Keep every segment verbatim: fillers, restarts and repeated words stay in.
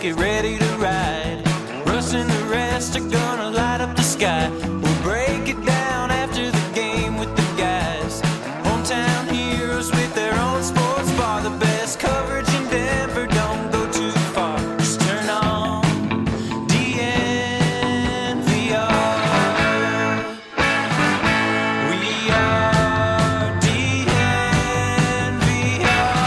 get ready to ride. Russ and the rest are gonna light up the sky. We'll break it down after the game with the guys. Hometown heroes with their own sports bar. The best coverage in Denver, don't go too far. Just turn on D N V R. We are D N V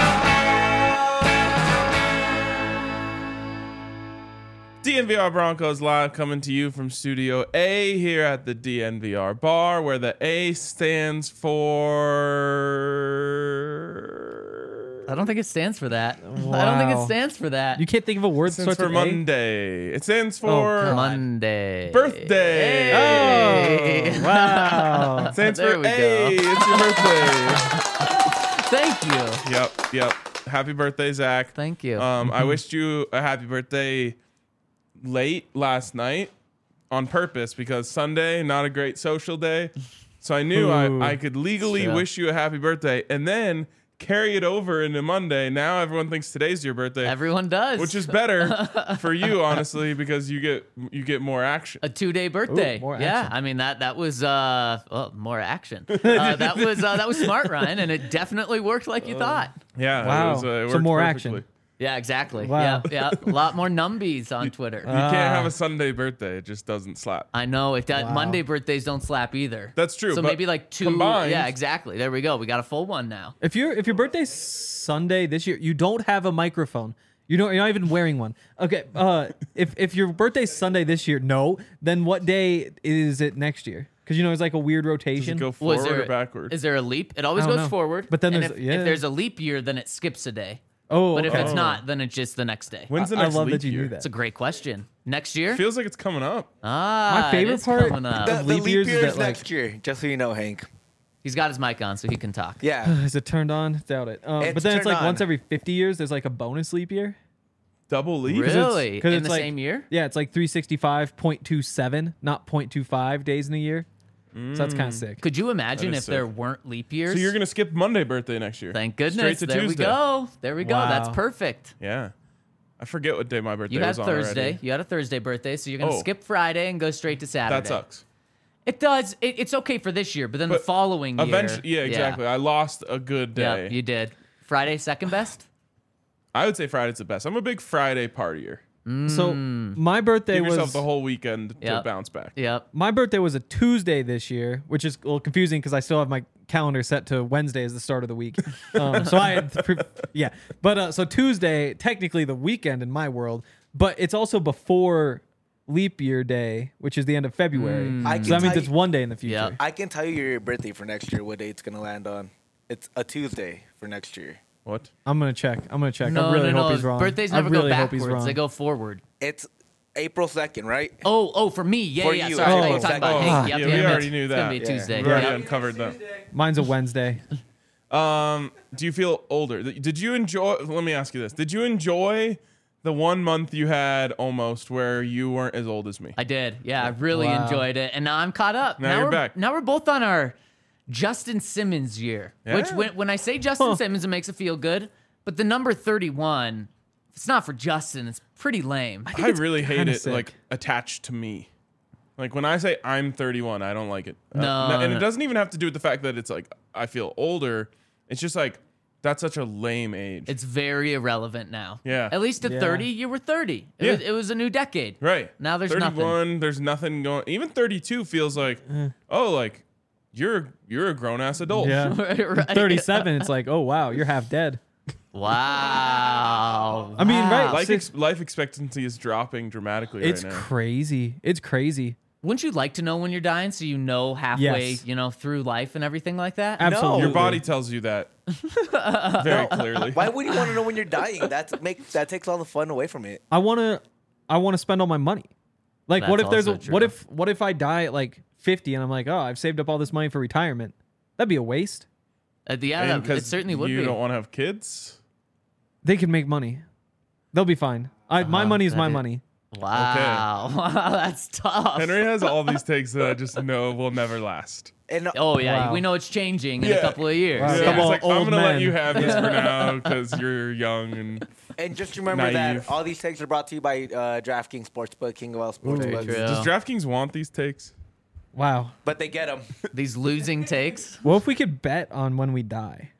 R. D N V R Broncos Live coming to you from Studio A here at the D N V R bar, where the A stands for... I don't think it stands for that. I don't think Wow. it stands for that. You can't think of a word It that stands starts for with A? Monday. It stands for... God. Monday. Birthday. Hey. Oh, wow. It stands There for we go. A. It's your birthday. Thank you. Yep, yep. Happy birthday, Zach. Thank you. Um, I wished you a happy birthday late last night on purpose because Sunday, not a great social day. So I knew Ooh. I, I could legally Sure. wish you a happy birthday and then carry it over into Monday. Now everyone thinks today's your birthday, Everyone does. which is better for you, honestly, because you get you get more action. a two-day birthday. Ooh, more yeah, action. I mean that that was uh well, more action. Uh, that was uh, that was smart, Ryan, and it definitely worked like you thought. Yeah, Wow. It was, uh, it So worked more perfectly. action. Yeah, exactly. Wow. Yeah, yeah. A lot more numbies on Twitter. You can't have Ah. a Sunday birthday; it just doesn't slap. I know if that Wow. Monday birthdays don't slap either. That's true, So but maybe like two. combined- Yeah, exactly. There we go. We got a full one now. If you're if your birthday's Sunday this year, you don't have a microphone. You don't. You're not even wearing one. Okay. Uh, if if your birthday's Sunday this year, no. Then what day is it next year? Because you know it's like a weird Does rotation. it go Was forward there or backward? Is there a leap? It always I don't goes know. forward. But then and there's- if, yeah. if there's a leap year, then it skips a day. oh, But if okay. it's not, then it's just the next day. When's the I next love leap that you year? knew that. It's a great question. Next year? Feels like it's coming up. Ah, My favorite it is part- coming up. The- The, Of the leap leap years is year that, is like- next year, just so you know, Hank. He's got his mic on, so he can talk. Yeah. Is it turned on? Doubt it. Um, It's but then it's turned like on. once every fifty years, there's like a bonus leap year. Double leap? Really? 'cause In it's the like- same year? Yeah, it's like three sixty-five point two seven, not point two five days in a year. So that's kind of sick. Could you imagine That if is there sick. weren't leap years? So you're gonna skip Monday birthday next year? Thank goodness. Straight to there Tuesday. we go. There we go. That's Wow. perfect. Yeah, I forget what day my birthday You had was on Thursday. already. You had a Thursday birthday, so you're going to Oh. skip Friday and go straight to Saturday. That sucks. It does. It, it's okay for this year, but then the But following year. Eventually, yeah, exactly. I lost a good day. Yeah, you did. Friday second best? I would say Friday's the best. I'm a big Friday partier. So my birthday Give was yourself the whole weekend to Yep. bounce back. Yep. my birthday was a Tuesday this year, which is a little confusing because I still have my calendar set to Wednesday as the start of the week. Um, so I, had pre- yeah, but uh, so Tuesday, technically the weekend in my world, but it's also before leap year day, which is the end of February. Mm. I So can that means tell it's you- one day in the future. Yep. I can tell you your birthday for next year, what day it's going to land on. It's a Tuesday for next year. What? I'm gonna check. I'm gonna check. No, I really no, hope no. he's wrong. Birthdays I never really go hope he's backwards. wrong. They go forward. It's April second, right? Oh, oh, for me. Yeah, For yeah. you, Sorry, I thought you were oh, talking about oh, Hank. yeah, Yep, we yep, already yep. knew It's going to that. be a Yeah. Tuesday. We already Yep. uncovered that. Mine's a Wednesday. Um, do you feel older? Did you enjoy? Let me ask you this: Did you enjoy the one month you had almost where you weren't as old as me? I did. Yeah, I really Wow. enjoyed it. And now I'm caught up. Now you're we're, back. Now we're both on our Justin Simmons year. Which, Yeah. when, when I say Justin Huh. Simmons, it makes it feel good. But the number thirty-one, if it's not for Justin, it's pretty lame. I really hate kinda it. sick. Like attached to me. Like when I say I'm thirty-one, I don't like it. Uh, No, and no. it doesn't even have to do with the fact that it's like I feel older. It's just like that's such a lame age. It's very irrelevant now. Yeah. At least at Yeah. thirty, you were thirty. It, Yeah. was, it was a new decade. right. Now there's thirty-one, nothing. there's nothing going. Even thirty-two feels like, Uh. oh, like you're you're a grown ass adult. Yeah. Right. thirty-seven. It's like, oh wow, you're half dead. Wow. I mean, right, Wow. Life, Six- ex- life expectancy is dropping dramatically It's right now. crazy. It's crazy. Wouldn't you like to know when you're dying so you know halfway, Yes. you know, through life and everything like that? Absolutely. Your body tells you that very clearly. Why would you want to know when you're dying? That's make that takes all the fun away from it. I want to. I want to spend all my money. Like, what That's if there's a? also true. What if? What if I die at like fifty and I'm like, oh, I've saved up all this money for retirement? That'd be a waste. Uh, yeah, And that, it 'cause certainly would you be. don't want to have kids. They can make money. They'll be fine. I, my Uh-huh, money is that my is- money. Wow. Wow, that's tough. Henry has all these takes that I just know will never last. And Oh, yeah. Wow. We know it's changing in Yeah. a couple of years. Wow. Yeah, Couple he's of like, I'm old gonna let men. you have this for now because you're young and And just remember Naive. that all these takes are brought to you by uh, DraftKings Sportsbook, King of all Sportsbooks. true. Does DraftKings want these takes? Wow. But they get them. These losing takes. What if we could bet on when we die?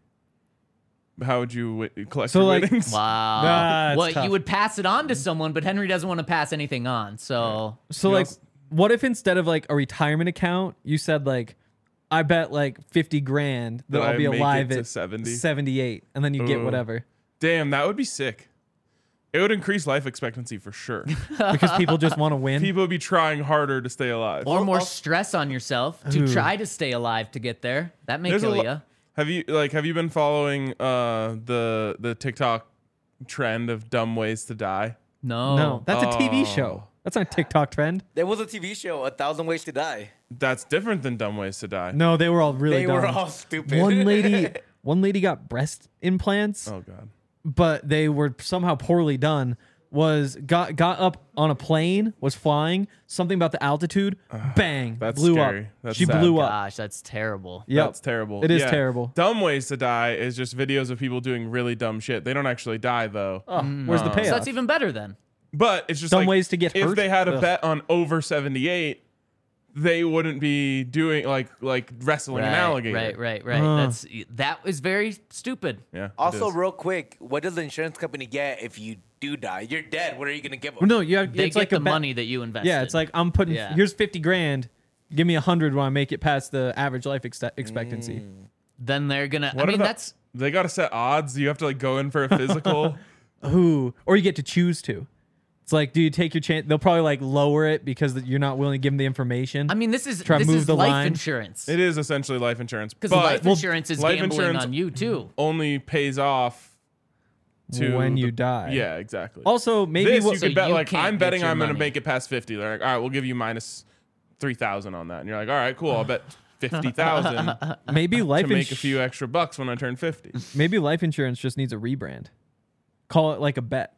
How would you wi- collect So, your like- winnings? Wow. Nah, it's well, tough. you would pass it on to someone, but Henry doesn't want to pass anything on. So So You like, also- what if instead of like a retirement account, you said like, I bet like fifty grand that That I'll I be make it alive to at seventy? seventy-eight, and then you get Ooh. whatever Damn, that would be sick. It would increase life expectancy for sure. because people just want to win. People would be trying harder to stay alive. or more I'll- stress on yourself to Ooh. try to stay alive to get there. That may There's a kill lo- you. Have you like have you been following uh the the TikTok trend of dumb ways to die? No. No, that's a T V Oh. show. That's not a TikTok trend. There was a T V show, A Thousand Ways to Die. That's different than dumb ways to die. No, they were all really They dumb. were all stupid. One lady, one lady got breast implants, Oh god. but they were somehow poorly done. Was got got up on a plane, was flying. Something about the altitude, bang, that's blew scary. up. That's she sad. blew up. Gosh, that's terrible. Yep. That's terrible. It is Yeah. terrible. Dumb ways to die is just videos of people doing really dumb shit. They don't actually die though. Oh, where's the Uh, payoff? So that's even better then. But it's just Dumb like, ways to get if hurt? they had a Ugh. bet on over seventy-eight, they wouldn't be doing like like wrestling an alligator. Right, right, right. Uh. That's that was very stupid. Yeah. it Also, is. real quick, what does the insurance company get if you do die? You're dead. What are you going to give them? Well, no, you have, They it's get like the a bet- money that you invested. Yeah, it's like I'm putting Yeah. here's fifty grand. Give me a hundred when I make it past the average life ex- expectancy. then they're gonna. What I mean, are the- that's they got to set odds. You have to like go in for a physical. Ooh, or you get to choose to. It's like, do you take your chance? They'll probably like lower it because you're not willing to give them the information. I mean, this is Try to this move is the life line. insurance. It is essentially life insurance, Because but life insurance is life gambling insurance on you too. only pays off to When the- you die. Yeah, exactly. Also, maybe this we'll, you So could bet you like can't I'm get betting your I'm going to money. make it past fifty. They're like, all right, we'll give you minus three thousand on that, and you're like, all right, cool. I'll bet fifty thousand maybe to life make a ins- few extra bucks when I turn fifty. maybe life insurance just needs a rebrand. Call it like a bet.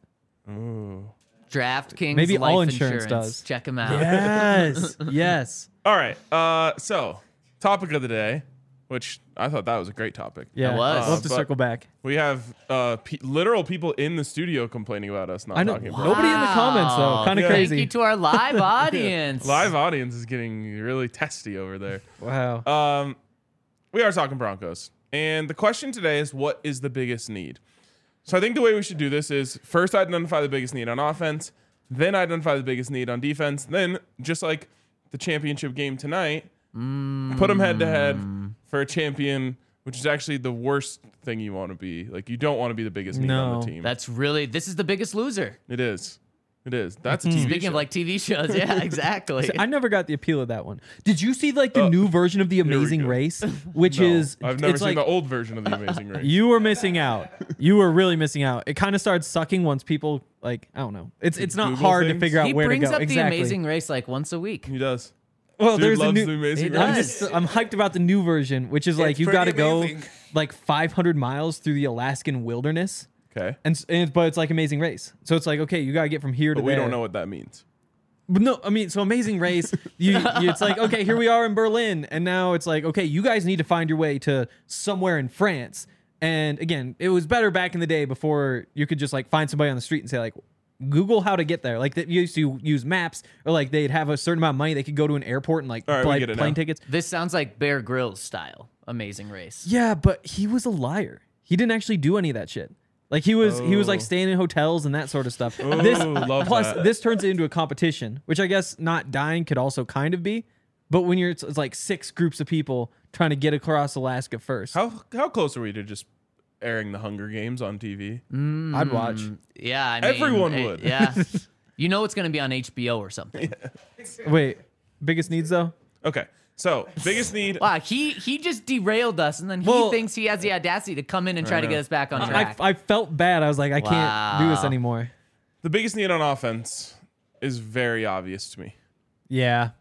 DraftKings. Maybe life all insurance does. Check them out. Yes, yes. All right. Uh, so topic of the day, which I thought that was a great topic. Yeah, It was. we'll have to Uh, but- circle back. We have uh, pe- literal people in the studio complaining about us not I know. talking about. Nobody in the comments though. Wow. Kind of Yeah. Thank crazy. you to our live audience. Live audience is getting really testy over there. Wow. Um, we are talking Broncos, and the question today is, what is the biggest need? So I think the way we should do this is first identify the biggest need on offense, then identify the biggest need on defense, then just like the championship game tonight, put them head to head for a champion, which is actually the worst thing you want to be. Like you don't want to be the biggest need on No. the team. That's really this is the biggest loser. it is. It is. That's a T V Speaking show. of like T V shows, yeah, exactly. I never got the appeal of that one. Did you see like the Uh, new version of the we Amazing go. Race, which No, is I've never it's seen like, the old version of the Amazing Race. You were missing out. You were really missing out. It kind of started sucking once people like I don't know. It's it's not Google hard to things? figure out he where to brings go. up exactly. the Amazing Race like once a week. He does. Well, Dude there's loves a new. the Amazing He Race. I'm does. just I'm hyped about the new version, which is like It's you got to pretty go amazing. like five hundred miles through the Alaskan wilderness, Okay. and, s- and but it's like Amazing Race. So it's like okay, you got to get from here to But we there. don't know what that means. But no, I mean, so Amazing Race, you, you, it's like, okay, here we are in Berlin. And now it's like, okay, you guys need to find your way to somewhere in France. And again, it was better back in the day before you could just like find somebody on the street and say, like, Google how to get there. Like, they used to use maps, or like they'd have a certain amount of money. They could go to an airport and like All right, we buy get it plane now. tickets. This sounds like Bear Grylls style Amazing Race. Yeah, but he was a liar. He didn't actually do any of that shit. Like he was, he was like Oh. staying in hotels and that sort of stuff. Ooh, this love plus that. this turns it into a competition, which I guess not dying could also kind of be. But when you're, it's, it's like six groups of people trying to get across Alaska first. How how close are we to just airing the Hunger Games on T V? I'd watch. Yeah, I mean, Everyone eh, would. Yeah, you know it's going to be on H B O or something. Wait, biggest needs though? Okay. So biggest need. Wow, he he just derailed us, and then he Well- thinks he has the audacity to come in and try to know. get us back on I, track. I felt bad. I was like, I can't do this Wow. anymore. The biggest need on offense is very obvious to me. Yeah.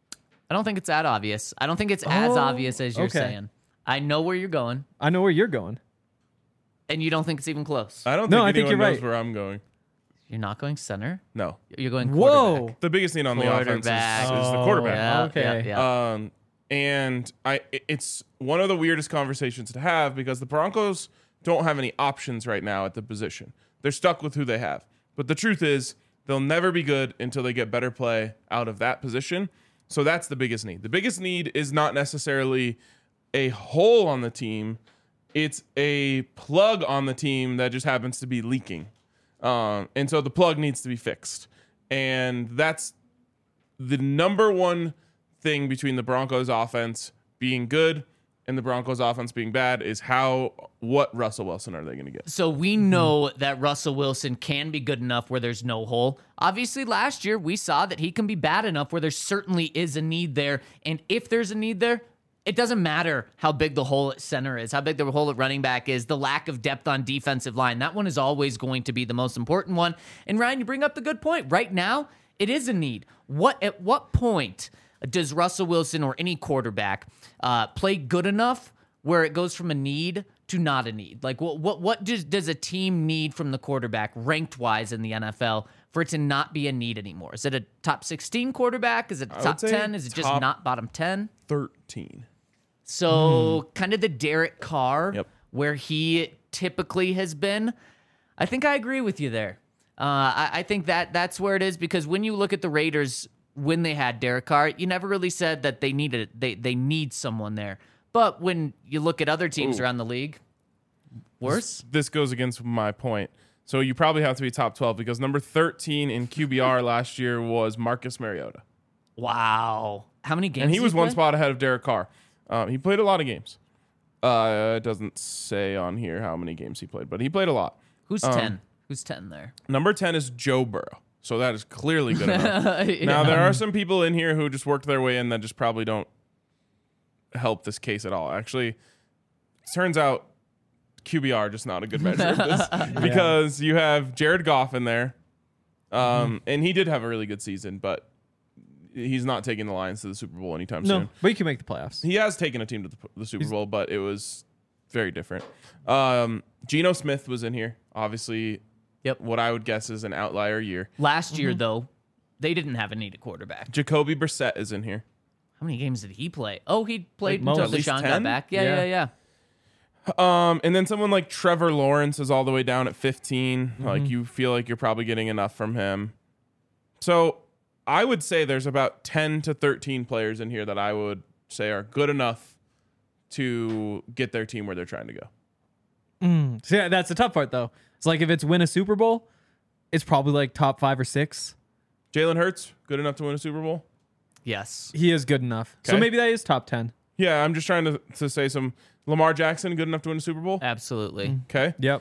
I don't think it's that obvious. I don't think it's as Oh, obvious as you're okay. saying. I know where you're going, I know where you're going. and you don't think it's even close. I don't No, think I think anyone you're knows right. where I'm going. You're not going center. No. You're going Whoa. quarterback. The biggest need on the offense is, is Quarterback. the Oh, quarterback. Yeah, Okay. yeah, yeah. Um, and I, it- it's one of the weirdest conversations to have because the Broncos don't have any options right now at the position. they're stuck with who they have. But the truth is, they'll never be good until they get better play out of that position. So that's the biggest need. The biggest need is not necessarily a hole on the team. It's a plug on the team that just happens to be leaking. Um, and so the plug needs to be fixed. And that's the number one thing between the Broncos offense being good and the Broncos offense being bad is how, what Russell Wilson are they going to get? So we know that Russell Wilson can be good enough where there's no hole. Obviously, last year we saw that he can be bad enough where there certainly is a need there. And if there's a need there, it doesn't matter how big the hole at center is, how big the hole at running back is, the lack of depth on defensive line. That one is always going to be the most important one. And Ryan, you bring up the good point. Right now, it is a need. What at what point does Russell Wilson or any quarterback uh, play good enough where it goes from a need to not a need? Like, what what what does, does a team need from the quarterback ranked wise in the N F L for it to not be a need anymore? Is it a top sixteen quarterback? Is it a top ten? Is it just not bottom ten? thirteen. So mm. kind of the Derek Carr yep. where he typically has been. I think I agree with you there. Uh, I, I think that that's where it is, because when you look at the Raiders when they had Derek Carr, you never really said that they needed they they need someone there. But when you look at other teams Ooh. around the league, worse. This, this goes against my point. So you probably have to be top twelve because number thirteen in Q B R last year was Marcus Mariota. Wow. How many games? And he was he one play? spot ahead of Derek Carr. Um, he played a lot of games. Uh, it doesn't say on here how many games he played, but he played a lot. Who's um, ten? Who's ten there? Number ten is Joe Burrow. So that is clearly good enough. Yeah. Now, there are some people in here who just worked their way in that just probably don't help this case at all. Actually, it turns out Q B R just not a good measure of this because you have Jared Goff in there. Um, mm-hmm. And he did have a really good season, but he's not taking the Lions to the Super Bowl anytime no, soon. but he can make the playoffs. He has taken a team to the, the Super Bowl, but it was very different. Um, Geno Smith was in here. Obviously, yep. what I would guess is an outlier year. Last year, though, they didn't have a need at quarterback. Jacoby Brissett is in here. How many games did he play? Oh, he played Like until most. Deshaun At least got ten? back. Yeah, Yeah. yeah, yeah. Um, and then someone like Trevor Lawrence is all the way down at fifteen. Mm-hmm. Like you feel like you're probably getting enough from him. So I would say there's about ten to thirteen players in here that I would say are good enough to get their team where they're trying to go. Mm. So yeah, that's the tough part, though. It's like if it's win a Super Bowl, it's probably like top five or six. Jalen Hurts, good enough to win a Super Bowl? Yes. He is good enough. So Okay. maybe that is top ten. Yeah, I'm just trying to, to say some. Lamar Jackson, good enough to win a Super Bowl? Absolutely. Okay. Yep.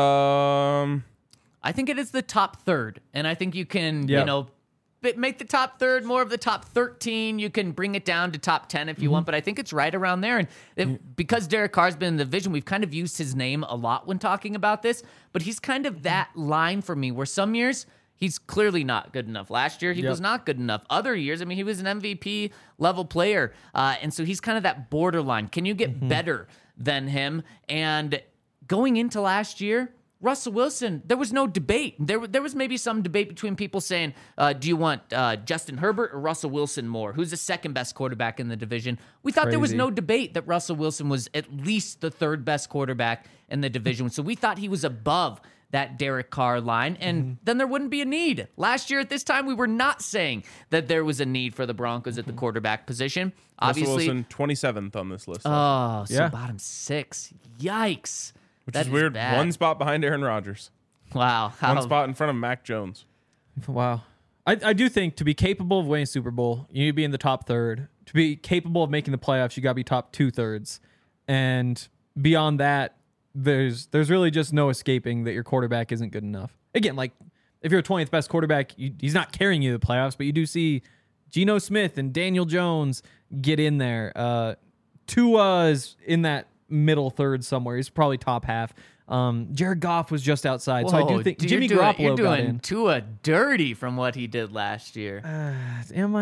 Um, I think it is the top third, and I think you can, you Yep. know, bi- make the top third more of the top thirteen. You can bring it down to top ten if you want, but I think it's right around there. And if, because Derek Carr's been in the division, we've kind of used his name a lot when talking about this, but he's kind of that line for me where some years he's clearly not good enough. Last year, he Yep. was not good enough. Other years, I mean, he was an M V P level player. Uh, and so he's kind of that borderline. Can you get better than him? And going into last year, Russell Wilson, there was no debate. There, there was maybe some debate between people saying, uh, do you want uh, Justin Herbert or Russell Wilson more? Who's the second best quarterback in the division? We thought there was Crazy. no debate that Russell Wilson was at least the third best quarterback in the division. So we thought he was above that Derek Carr line, and Mm-hmm. then there wouldn't be a need. Last year at this time, we were not saying that there was a need for the Broncos at the quarterback position. Russell Obviously, Wilson, twenty-seventh on this list. oh, so Yeah. bottom six. Yikes. which That is weird. bad. One spot behind Aaron Rodgers. Wow. How, One spot in front of Mac Jones. Wow. I, I do think to be capable of winning a Super Bowl, you need to be in the top third. To be capable of making the playoffs, you got to be top two thirds. And beyond that, there's there's really just no escaping that your quarterback isn't good enough. Again, like if you're a twentieth best quarterback, you, he's not carrying you to the playoffs, but you do see Geno Smith and Daniel Jones get in there. Uh, Tua is in that middle third somewhere. He's probably top half. Um, Jared Goff was just outside, so I do Whoa, think dude, Jimmy you're doing, Garoppolo you're got doing in. Tua dirty from what he did last year. Uh, am I?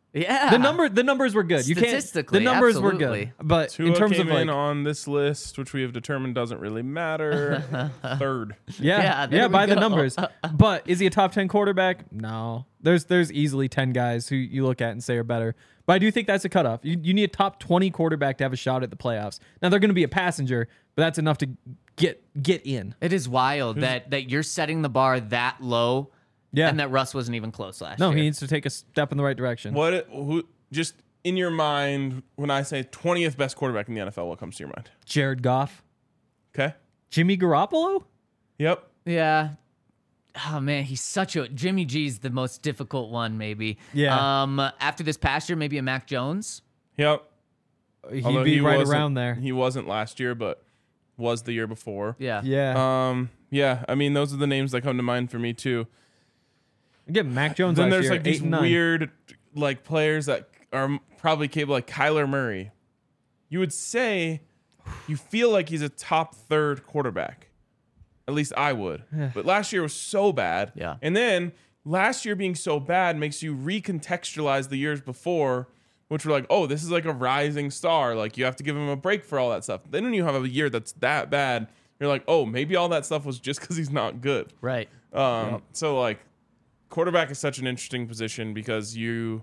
Yeah. The number, the numbers were good. You can't. Statistically, The numbers absolutely. were good, but Tua in terms came of like, in on this list, which we have determined doesn't really matter. Third. yeah, Yeah, yeah, there we by the go. numbers. But is he a top ten quarterback? No. There's there's easily ten guys who you look at and say are better. But I do think that's a cutoff. You you need a top twenty quarterback to have a shot at the playoffs. Now they're going to be a passenger, but that's enough to get get in. It is wild that that you're setting the bar that low, Yeah. and that Russ wasn't even close last No, year. he needs to take a step in the right direction. What? Who? Just in your mind, when I say twentieth best quarterback in the N F L, what comes to your mind? Jared Goff, Okay. Jimmy Garoppolo. Yep. Yeah. Oh man, he's such a Jimmy G's the most difficult one, maybe. Yeah. Um, after this past year, maybe a Mac Jones. Yep. He'd Although be he right wasn't- around there. He wasn't last year, but was the year before. Yeah. Yeah. Um. Yeah. I mean, those are the names that come to mind for me too. Get Mac Jones. Then last there's year, like eight these and nine. weird, like players that are probably capable, like Kyler Murray. You would say, you feel like he's a top third quarterback. At least I would. But last year was so bad. Yeah. And then last year being so bad makes you recontextualize the years before, which were like, oh, this is like a rising star. Like you have to give him a break for all that stuff. Then when you have a year that's that bad, you're like, oh, maybe all that stuff was just because he's not good. Right. Um, So like, quarterback is such an interesting position because you,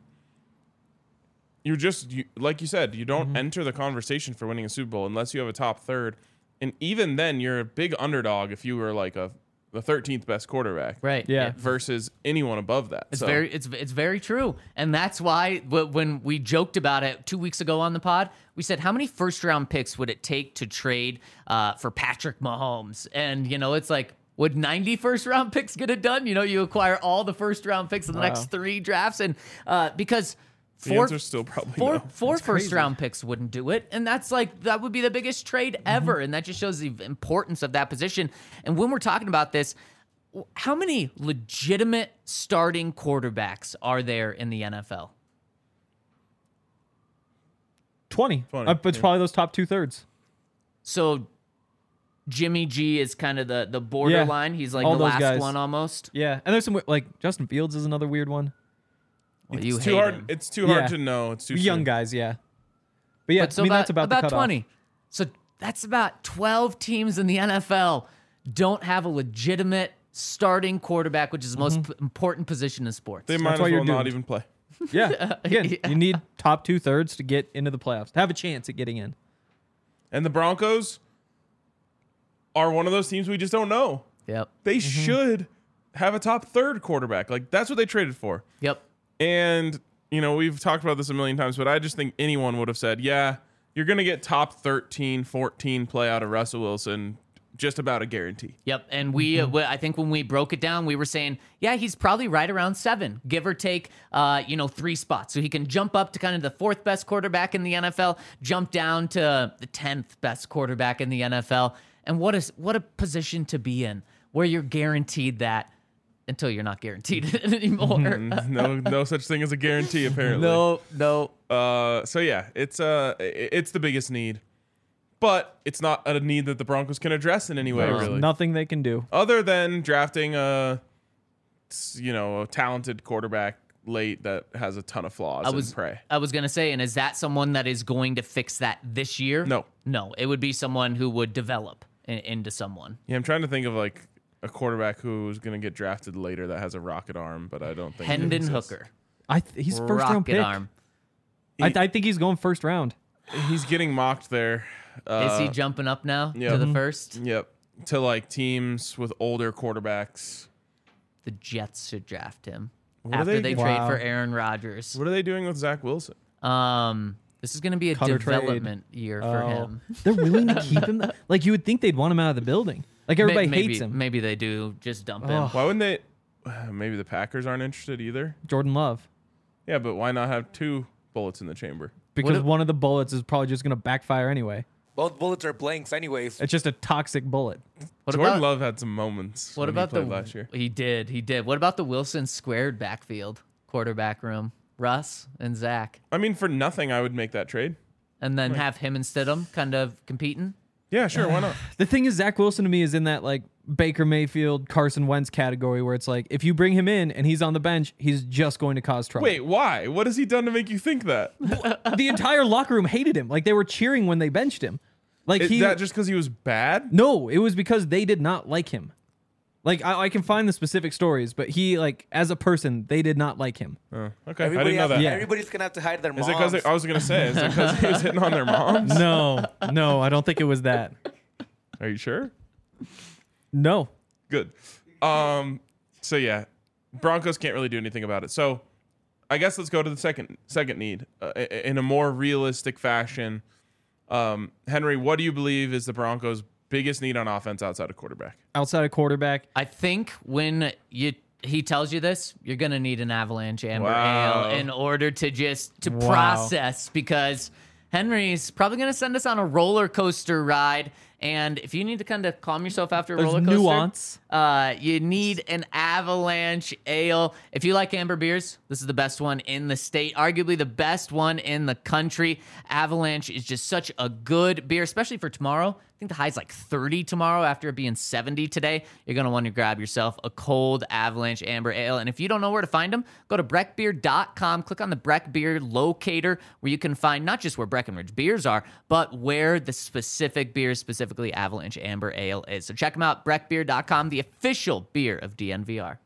you're just you, like you said, you don't enter the conversation for winning a Super Bowl unless you have a top third, and even then, you're a big underdog if you were like a the thirteenth best quarterback, Right. Yeah. versus anyone above that. It's So, very it's it's very true, and that's why wh- when we joked about it two weeks ago on the pod, we said how many first round picks would it take to trade uh, for Patrick Mahomes, and you know it's like. Would ninety first round picks get it done? You know, you acquire all the first round picks in the Wow. next three drafts, and uh, because the four, answer's still probably four, no. four first round picks wouldn't do it, and that's like that would be the biggest trade ever, and that just shows the importance of that position. And when we're talking about this, how many legitimate starting quarterbacks are there in the N F L? twenty. twenty, Uh, it's yeah. probably those top two thirds. So Jimmy G is kind of the the borderline. He's like all the those last guys. one almost. Yeah, and there's some like Justin Fields is another weird one. Well, it's you too hate hard. him. It's too hard Yeah. to know. It's too Young soon. guys, yeah. But yeah, But so I mean about, that's about, about the cutoff. twenty. So that's about twelve teams in the N F L don't have a legitimate starting quarterback, which is the most p- important position in sports. They might as why you're well not doomed. even play. Yeah, again, you need top two thirds to get into the playoffs, to have a chance at getting in. And the Broncos are one of those teams we just don't know. Yep. They Mm-hmm. should have a top third quarterback. Like that's what they traded for. Yep. And, you know, we've talked about this a million times, but I just think anyone would have said, yeah, you're going to get top thirteen, fourteen play out of Russell Wilson, just about a guarantee. Yep, and we, uh, we- I think when we broke it down, we were saying, yeah, he's probably right around seven, give or take, uh, you know, three spots. So he can jump up to kind of the fourth best quarterback in the N F L, jump down to the tenth best quarterback in the N F L, and what is what a position to be in, where you're guaranteed that until you're not guaranteed it anymore. no, no such thing as a guarantee, apparently. no, no. Uh, so yeah, it's uh, i- it's the biggest need, but it's not a need that the Broncos can address in any way, There's really. nothing they can do. Other than drafting a, you know, a talented quarterback late that has a ton of flaws I was and pray. I was gonna say, and is that someone that is going to fix that this year? No. no. It would be someone who would develop in, into someone. Yeah, I'm trying to think of like a quarterback who's going to get drafted later that has a rocket arm, but I don't think it Hendon exists. Hooker, I th- he's first rocket round pick. arm. I, th- I think he's going first round. He's getting mocked there. Uh, Is he jumping up now yeah. to the Mhm. first? Yep. To like teams with older quarterbacks. The Jets should draft him What are after they- they, trade Wow. for Aaron Rodgers. What are they doing with Zach Wilson? Um, this is going to be a Cut or trade. development year for Oh. him. They're willing to keep him. Like you would think they'd want him out of the building. Like everybody May- maybe, hates him. Maybe they do. Just dump Oh. him. Why wouldn't they? Maybe the Packers aren't interested either. Jordan Love. Yeah, but why not have two bullets in the chamber? Because if- one of the bullets is probably just going to backfire anyway. Both bullets are blanks, anyways. It's just a toxic bullet. What Jordan about Love had some moments. what when about he played the last year? He did. He did. What about the Wilson squared backfield quarterback room? Russ and Zach, I mean, for nothing, I would make that trade. and then have him and Stidham kind of competing. Yeah, sure. Why not? The thing is, Zach Wilson to me is in that like Baker Mayfield, Carson Wentz category where it's like, if you bring him in and he's on the bench, he's just going to cause trouble. Wait, why? What has he done to make you think that? The entire locker room hated him. Like, they were cheering when they benched him. Like Is he, that just because he was bad? no, it was because they did not like him. Like, I, I can find the specific stories, but he, like, as a person, they did not like him. Oh, okay, I Everybody didn't know has- that. Yeah. Everybody's gonna have to hide their Is moms. it because I was gonna say? Is it because he was hitting on their moms? No, no, I don't think it was that. Are you sure? No. Good. Um. So yeah, Broncos can't really do anything about it. So I guess let's go to the second second need uh, i- in a more realistic fashion. Um, Henry, what do you believe is the Broncos' biggest need on offense outside of quarterback? Outside of quarterback, I think when you he tells you this, you're gonna need an Avalanche Amber Wow. Ale in order to just to Wow. process, because Henry's probably gonna send us on a roller coaster ride. And if you need to kind of calm yourself after a There's roller coaster, nuance. Uh, you need an Avalanche Ale. If you like amber beers, this is the best one in the state, arguably the best one in the country. Avalanche is just such a good beer, especially for tomorrow. I think the high's like thirty tomorrow after it being seventy today. You're going to want to grab yourself a cold Avalanche Amber Ale. And if you don't know where to find them, go to breck beer dot com. Click on the Breck Beer locator where you can find not just where Breckenridge beers are, but where the specific beers, specifically Avalanche Amber Ale, is. So check them out, breck beer dot com, the official beer of D N V R.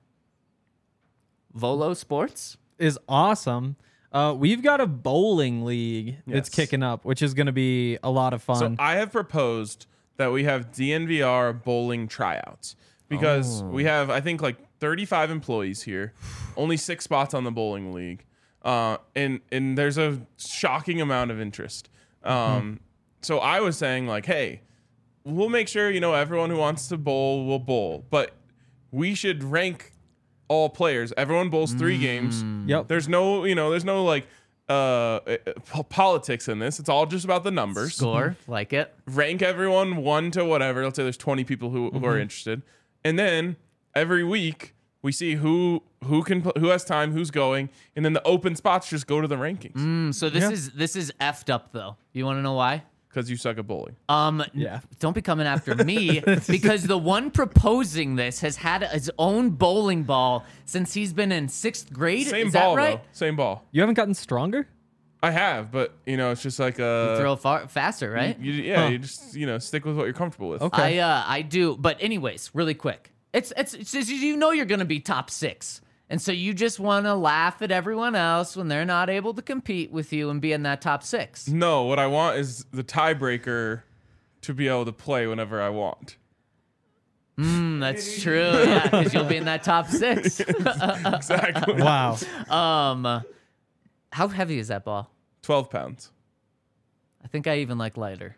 Volo Sports? is awesome. Uh, we've got a bowling league that's Yes. kicking up, which is going to be a lot of So fun. I have proposed that we have D N V R bowling tryouts because we have, I think, like thirty-five employees here, only six spots on the bowling league, uh, and and there's a shocking amount of interest. Um, So I was saying, like, hey, we'll make sure you know everyone who wants to bowl will bowl, but we should rank all players. Everyone bowls three games. Yep. There's no, you know, there's no like uh, po- politics in this. It's all just about the numbers. Score, like it. Rank everyone one to whatever. Let's say there's twenty people who, who are interested, and then every week we see who who can pl- who has time, who's going, and then the open spots just go to the rankings Mm, so this Yeah. is this is effed up though. You want to know why? because you suck at bowling. Um, n- Yeah. don't be coming after me because the one proposing this has had his own bowling ball since he's been in sixth grade. Same is ball that right? though. Same ball. You haven't gotten stronger? I have, but you know, it's just like uh, Throw far faster, right? You, yeah, Huh. you just you know stick with what you're comfortable with. Okay. I uh, I do, but anyways, really quick. It's it's, it's just, you know you're gonna be top six, and so you just want to laugh at everyone else when they're not able to compete with you and be in that top six. No, what I want is the tiebreaker to be able to play whenever I want. Mm, that's true, yeah, because you'll be in that top six. Exactly. Wow. Um, how heavy is that ball? Twelve pounds. I think I even like lighter.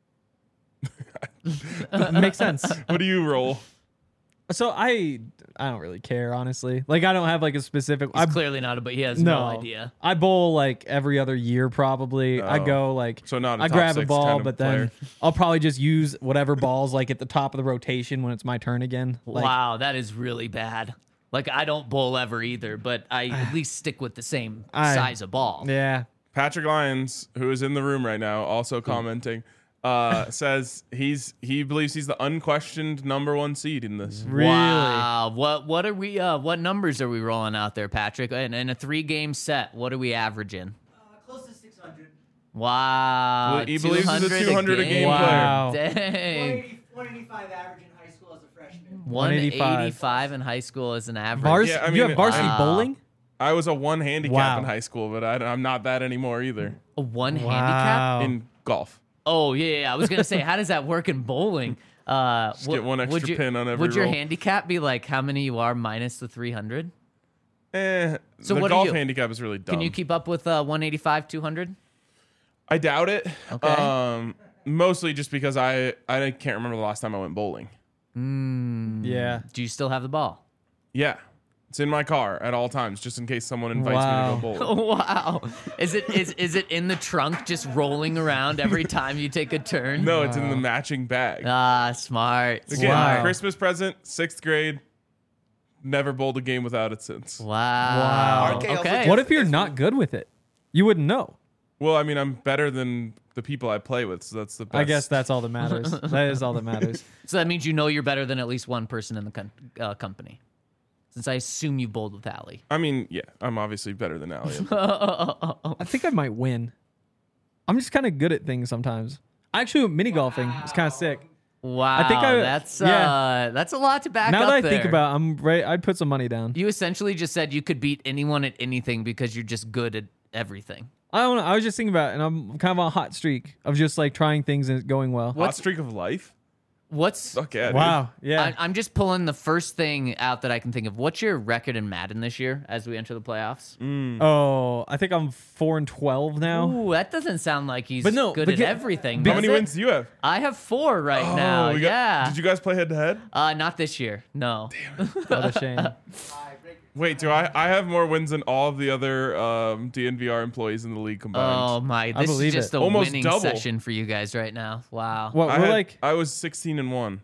Makes sense. What do you roll? So I I don't really care, honestly. Like, I don't have like a specific. He's I clearly not, but he has no, idea. I bowl like every other year, probably. I Oh. go like So not a I top grab a six ball, kind of but then player. I'll probably just use whatever balls like at the top of the rotation when it's my turn again. Like, Wow, that is really bad. Like I don't bowl ever either, but I at least stick with the same I- size of ball. Yeah. Patrick Lyons, who is in the room right now, also commenting, uh, says he's he believes he's the unquestioned number one seed in this. Really? Wow. What what are we uh what numbers are we rolling out there, Patrick? In, in a three game set, what are we averaging? Uh, close to six hundred. Wow. Well, he believes he's a two hundred a game player. Wow. Dang. one eighty, one eighty-five average in high school as a freshman. one eighty-five. eighty-five in high school is an average. Vars- Yeah, I you mean, have varsity wow. bowling? I was a one handicap Wow. in high school, but I, I'm not that anymore either A one handicap? Wow. in golf. Oh yeah, yeah, I was gonna say, how does that work in bowling? Uh, Just get one extra would your, pin on every Would your roll. handicap be like how many you are minus the three hundred? Eh, So the what are golf you? handicap is really dumb. Can you keep up with uh, one eighty-five, two hundred? I doubt it. Okay. Um, mostly just because I I can't remember the last time I went bowling. Yeah. Do you still have the ball? Yeah, it's in my car at all times, just in case someone invites Wow. me to go bowling. Wow. Is it is is it in the trunk just rolling around every time you take a turn? No, it's in the matching bag. Ah, smart. Again, Smart. Christmas present, sixth grade. Never bowled a game without it since. Wow. Wow. R K also Okay. just- What if you're not good with it? You wouldn't know. Well, I mean, I'm better than the people I play with. So that's the best. I guess that's all that matters. That is all that matters. So that means you know you're better than at least one person in the con- uh, company. Since I assume you bowled with Allie. I mean, yeah, I'm obviously better than Allie. I think I might win. I'm just kind of good at things sometimes. Actually, mini golfing is kind of sick. Wow, I think I- that's yeah. uh, that's a lot to back Now up that I there. think about it, I'm right. I'd put some money down. You essentially just said you could beat anyone at anything because you're just good at everything. I don't know. I was just thinking about it, and I'm kind of on a hot streak of just like trying things and it going well. Hot streak of life. What's Fuck yeah, dude. Wow. Yeah. I, I'm just pulling the first thing out that I can think of. What's your record in Madden this year as we enter the playoffs? oh, I think I'm four and twelve now. Ooh, that doesn't sound like he's But no, good but at get- everything. How does many it? wins do you have? I have four right Oh, now. we got- Yeah. Did you guys play head to head? Uh, not this year. No. What a shame. Wait, do I? I have more wins than all of the other um, D N V R employees in the league combined. Oh my! This is believe just it. a Almost winning double. session for you guys right now. Wow. What I we're had- like? I was sixteen and one.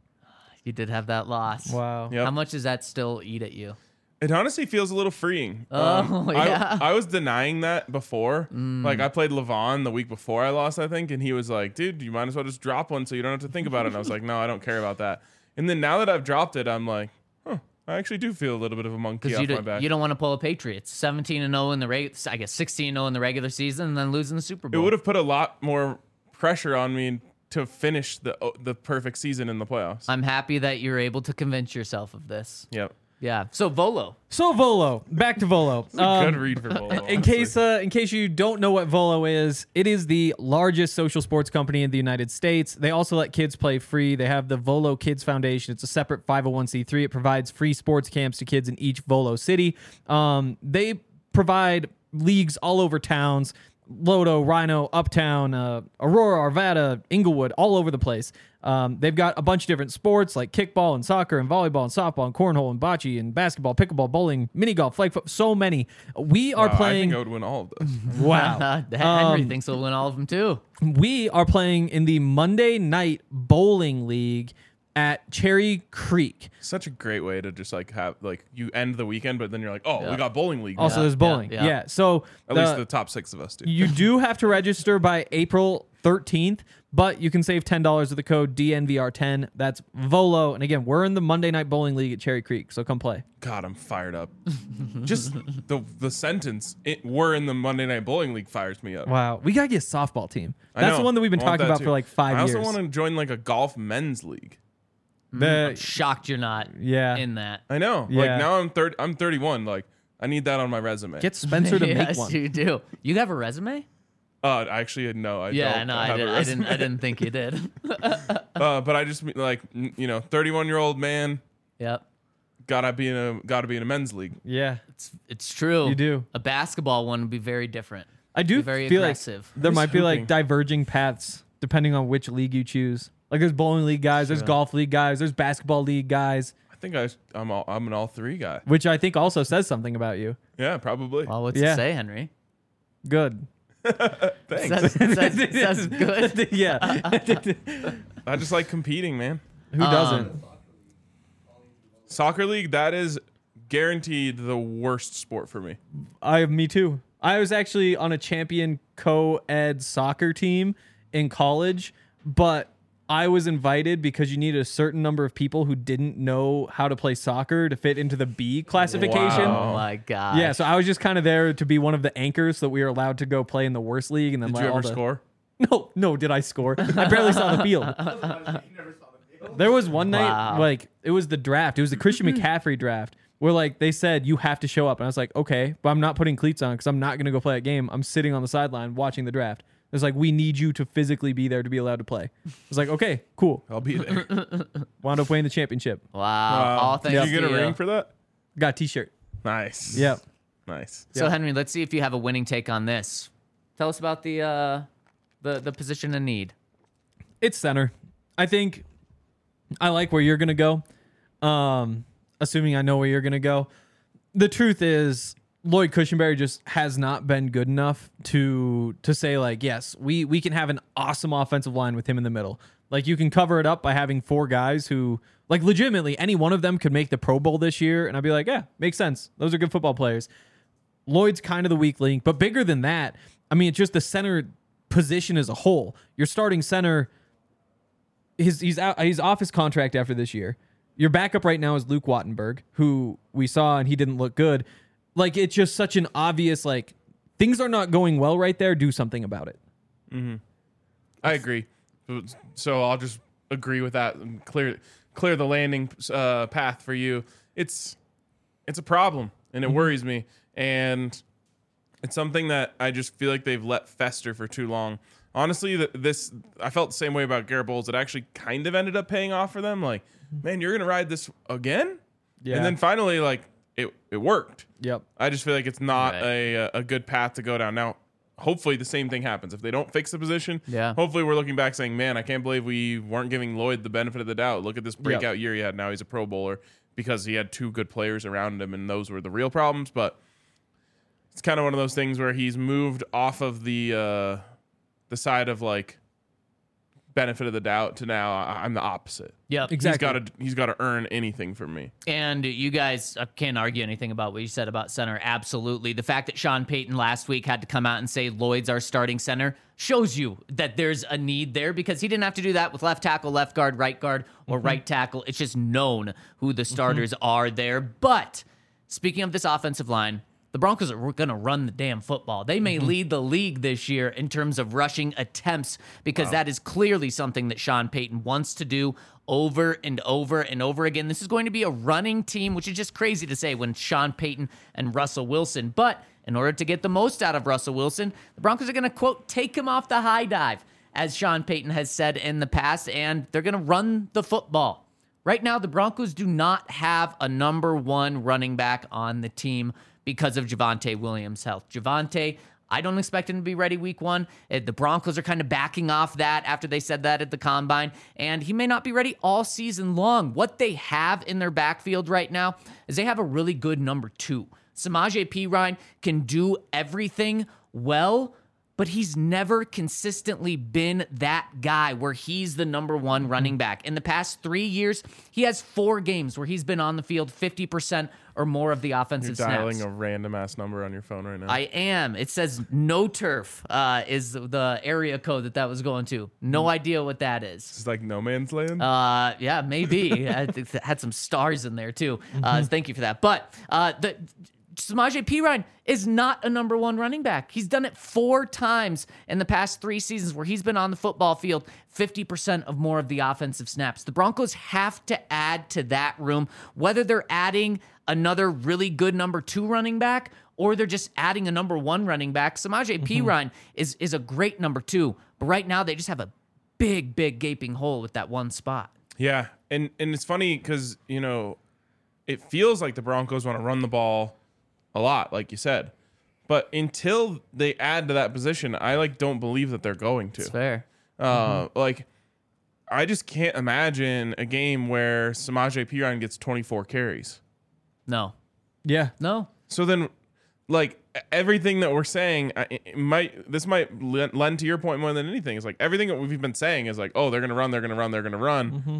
You did have that loss. Wow. Yep. How much does that still eat at you? It honestly feels a little freeing. Oh, I- yeah. I, was denying that before. Like I played Levon the week before I lost, I think, and he was like, "Dude, you might as well just drop one so you don't have to think about it." And I was like, "No, I don't care about that." And then now that I've dropped it, I'm like, "Huh, I actually do feel a little bit of a monkey Because off you, my don't- back." you don't want to pull a Patriots. seventeen and oh in the reg- I guess sixteen and oh in the regular season and then losing the Super It Bowl. would have put a lot more pressure on me to finish the the perfect season in the playoffs. I'm happy that you're able to convince yourself of this. yep. Yeah. So Volo. So Volo, back to Volo. Good Um, read for Volo. in honestly. case uh, in case you don't know what Volo is, it is the largest social sports company in the United States. They also let kids play free. They have the Volo Kids Foundation. It's a separate five oh one c three. It provides free sports camps to kids in each Volo city. Um, they provide leagues all over towns. Lodo, Rhino, Uptown, uh, Aurora, Arvada, Inglewood, all over the place. Um, they've got a bunch of different sports like kickball and soccer and volleyball and softball and cornhole and bocce and basketball, pickleball, bowling, mini golf, flag foot, so many. We are Wow, I playing. think I would win all of those. Wow. Henry Um, thinks he'll win all of them too. We are playing in the Monday Night Bowling League at Cherry Creek. Such a great way to just like have like you end the weekend, but then you're like, oh, Yeah. we got bowling league. Also, now. there's bowling. yeah. Yeah. So At the- least the top six of us do. you do have to register by April thirteenth, but you can save ten dollars with the code D N V R ten. That's Volo. And again, we're in the Monday Night Bowling League at Cherry Creek, so come play. God, I'm fired up. Just the the sentence it, "we're in the Monday Night Bowling League" fires me up. Wow. We got to get a softball team. I That's know. the one that we've been I want talking that about too. for like five I years. also want to join like a golf men's league. The- Shocked you're not yeah. in that. I know. Yeah. Like now I'm thirty. I'm thirty-one. Like I need that on my resume. Get Spencer to yes, make one. you do. You have a resume? uh, actually, no. I Yeah, don't no, I, have did, a I didn't. I resume. didn't think you did. Uh, but I just mean, like n- you know, thirty-one year old man Yep, gotta be in a gotta be in a men's league. Yeah. it's it's true. You do. A basketball one would be very different. I do Be very feel aggressive. like there Who's might be like hooping? diverging paths depending on which league you choose. Like there's bowling league guys, there's golf league guys, there's basketball league guys, I think I I'm all, I'm an all three guy. which I think also says something about you. Yeah, probably. Well, what's Yeah. it say, Henry? Good. Thanks. Says, says, says good. yeah. I just like competing, man. Who doesn't? Um, Soccer league, that is guaranteed the worst sport for me. I me too. I was actually on a champion co-ed soccer team in college, but I was invited because you needed a certain number of people who didn't know how to play soccer to fit into the B classification. Wow. Oh my god. Yeah, so I was just kind of there to be one of the anchors so that we were allowed to go play in the worst league and then Did let you all ever the- score? No, no, did I score? I barely saw the field. There was one night, Wow. like, it was the draft. It was the Christian McCaffrey draft, where, like, they said, you have to show up. And I was like, okay, but I'm not putting cleats on because I'm not going to go play a game. I'm sitting on the sideline watching the draft. It's like, we need you to physically be there to be allowed to play. I was like, okay, cool. I'll be there. Wound up winning the championship. Wow. Wow. All Did thanks you get to a you. ring for that? Got a t-shirt. Nice. Yep. Nice. So Yeah. Henry, let's see if you have a winning take on this. Tell us about the uh, the the position in need. It's center. I think I like where you're gonna go. Um, assuming I know where you're gonna go. The truth is, Lloyd Cushenberry just has not been good enough to to say like, yes, we we can have an awesome offensive line with him in the middle. Like you can cover it up by having four guys who, like, legitimately any one of them could make the Pro Bowl this year, and I'd be like, yeah, makes sense. Those are good football players. Lloyd's kind of the weak link, but bigger than that, I mean, it's just the center position as a whole. Your starting center, his he's out, he's off his contract after this year. Your backup right now is Luke Wattenberg, who we saw and he didn't look good. Like, it's just such an obvious, like, things are not going well right there. Do something about it. Mm-hmm. I agree. So I'll just agree with that and clear clear the landing uh, path for you. It's it's a problem, and it Mm-hmm. worries me, and it's something that I just feel like they've let fester for too long. Honestly, th- this I felt the same way about Garrett Bowles. It actually kind of ended up paying off for them. Like, man, you're gonna ride this again, Yeah. and then finally, like, it it worked. Yep. I just feel like it's not Right. a a good path to go down. Now, hopefully the same thing happens. If they don't fix the position, Yeah. hopefully we're looking back saying, man, I can't believe we weren't giving Lloyd the benefit of the doubt. Look at this breakout year he had. Now he's a Pro Bowler because he had two good players around him, and those were the real problems. But it's kind of one of those things where he's moved off of the uh, the side of, like, benefit of the doubt to now I- I'm the opposite. Yep. Exactly. He's got to he's got to earn anything from me. And you guys I can't argue anything about what you said about center. Absolutely. The fact that Sean Payton last week had to come out and say Lloyd's our starting center shows you that there's a need there, because he didn't have to do that with left tackle, left guard, right guard, or Mm-hmm. right tackle. It's just known who the starters are there. But speaking of this offensive line, the Broncos are going to run the damn football. They may lead the league this year in terms of rushing attempts, because that is clearly something that Sean Payton wants to do over and over and over again. This is going to be a running team, which is just crazy to say when Sean Payton and Russell Wilson. But in order to get the most out of Russell Wilson, the Broncos are going to, quote, take him off the high dive, as Sean Payton has said in the past, and they're going to run the football. Right now, the Broncos do not have a number one running back on the team because of Javonte Williams' health. Javonte, I don't expect him to be ready week one. Uh, The Broncos are kind of backing off that after they said that at the Combine, and he may not be ready all season long. What they have in their backfield right now is they have a really good number two. Samaje Perine can do everything well, but he's never consistently been that guy where he's the number one running back. In the past three years, he has four games where he's been on the field fifty percent or more of the You're offensive dialing snaps. a random ass number on your phone right now. I am. It says no turf uh, is the area code that that was going to. No idea what that is. It's like no man's land. Uh, yeah, maybe. I think it had some stars in there too. Uh, thank you for that. But uh, the Samaje Perine is not a number one running back. He's done it four times in the past three seasons where he's been on the football field fifty percent of more of the offensive snaps. The Broncos have to add to that room, whether they're adding another really good number two running back or they're just adding a number one running back. Samaje Perine is, is a great number two, but right now they just have a big, big gaping hole with that one spot. Yeah, and and it's funny because, you know, it feels like the Broncos want to run the ball a lot, like you said, but until they add to that position, I like don't believe that they're going to. It's fair. Uh, Like, I just can't imagine a game where Samaje Perine gets twenty-four carries. No, Yeah. no. So then, like, everything that we're saying, I- it might this might lend to your point more than anything. It's like everything that we've been saying is like, oh, they're gonna run, they're gonna run, they're gonna run. Mm-hmm.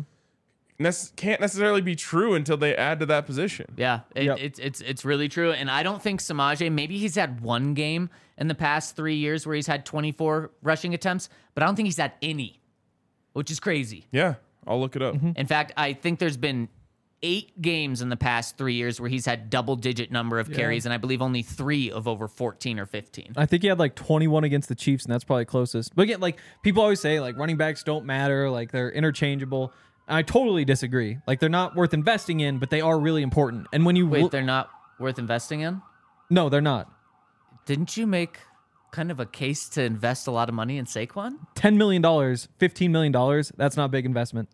Nec- can't necessarily be true until they add to that position. Yeah, it, Yep. it's it's it's really true, and I don't think Samaje. Maybe he's had one game in the past three years where he's had twenty-four rushing attempts, but I don't think he's had any, which is crazy. Yeah, I'll look it up. In fact, I think there's been eight games in the past three years where he's had double-digit number of carries, and I believe only three of over fourteen or fifteen. I think he had like twenty-one against the Chiefs, and that's probably closest. But again, like people always say, like running backs don't matter, like they're interchangeable. I totally disagree. Like they're not worth investing in, but they are really important. And when you Wait, look- they're not worth investing in? no, they're not. Didn't you make kind of a case to invest a lot of money in Saquon? Ten million dollars, fifteen million dollars. That's not a big investment.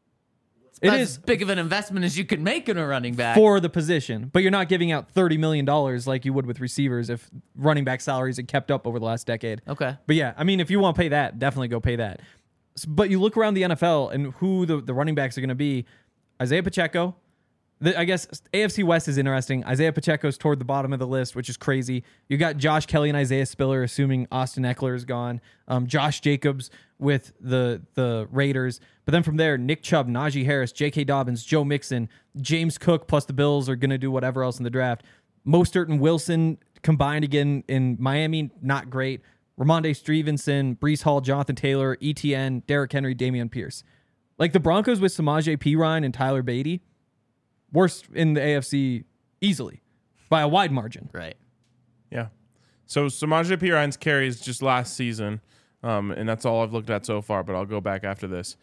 It That's is as big of an investment as you can make in a running back. for the position, but you're not giving out thirty million dollars like you would with receivers if running back salaries had kept up over the last decade. Okay. But yeah, I mean, if you want to pay that, definitely go pay that. S- But you look around the N F L and who the, the running backs are going to be. Isaiah Pacheco. The, I guess A F C West is interesting. Isaiah Pacheco's toward the bottom of the list, which is crazy. You got Josh Kelly and Isaiah Spiller, assuming Austin Eckler is gone. Um, Josh Jacobs with the the Raiders. But then from there, Nick Chubb, Najee Harris, J K. Dobbins, Joe Mixon, James Cook, plus the Bills are going to do whatever else in the draft. Mostert and Wilson combined again in Miami, not great. Ramondre Stevenson, Breece Hall, Jonathan Taylor, E T N, Derrick Henry, Damian Pierce. Like the Broncos with Samaje Perine and Tyler Beatty, worst in the A F C easily by a wide margin. Right. Yeah. So Samaje Perine's carries just last season, um, and that's all I've looked at so far, but I'll go back after this.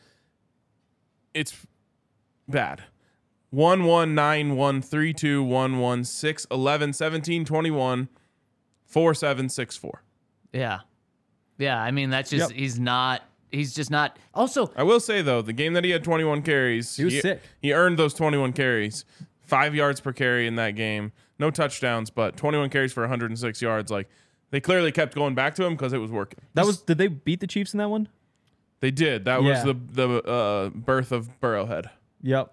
It's bad. one, one, nine, one, three, two, one, one, six, eleven, seventeen, twenty-one, four, seven, six, four. Yeah. Yeah. I mean, that's just, Yep. he's not, he's just not. Also, I will say, though, the game that he had twenty-one carries, He was sick. He earned those twenty-one carries. Five yards per carry in that game. No touchdowns, but twenty-one carries for one hundred six yards. Like, they clearly kept going back to him because it was working. That was did they beat the Chiefs in that one? They did. That Yeah. was the the uh, birth of Burrowhead. Yep.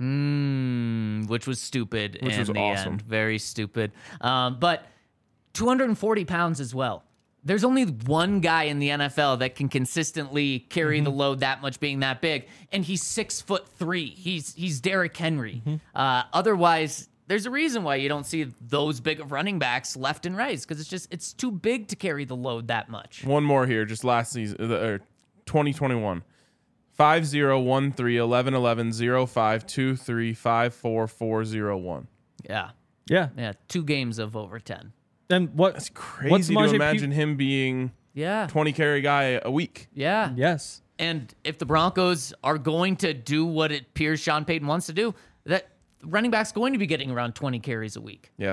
mm, which was stupid Which in was the awesome. end. Very stupid. Um, but two hundred forty pounds as well. There's only one guy in the N F L that can consistently carry Mm-hmm. the load that much, being that big, and he's six foot three. He's he's Derrick Henry. Mm-hmm. Uh, otherwise, there's a reason why you don't see those big of running backs left and right, because it's just it's too big to carry the load that much. One more here, just last season, uh, or twenty twenty-one. five zero one three eleven eleven zero five two three five four four zero one. Yeah, Yeah. yeah, two games of over ten. And what? That's crazy what's to Samaje Pe- imagine him being Yeah, twenty carry guy a week. yeah, Yes. And if the Broncos are going to do what it appears Sean Payton wants to do, that running back's going to be getting around twenty carries a week. Yeah.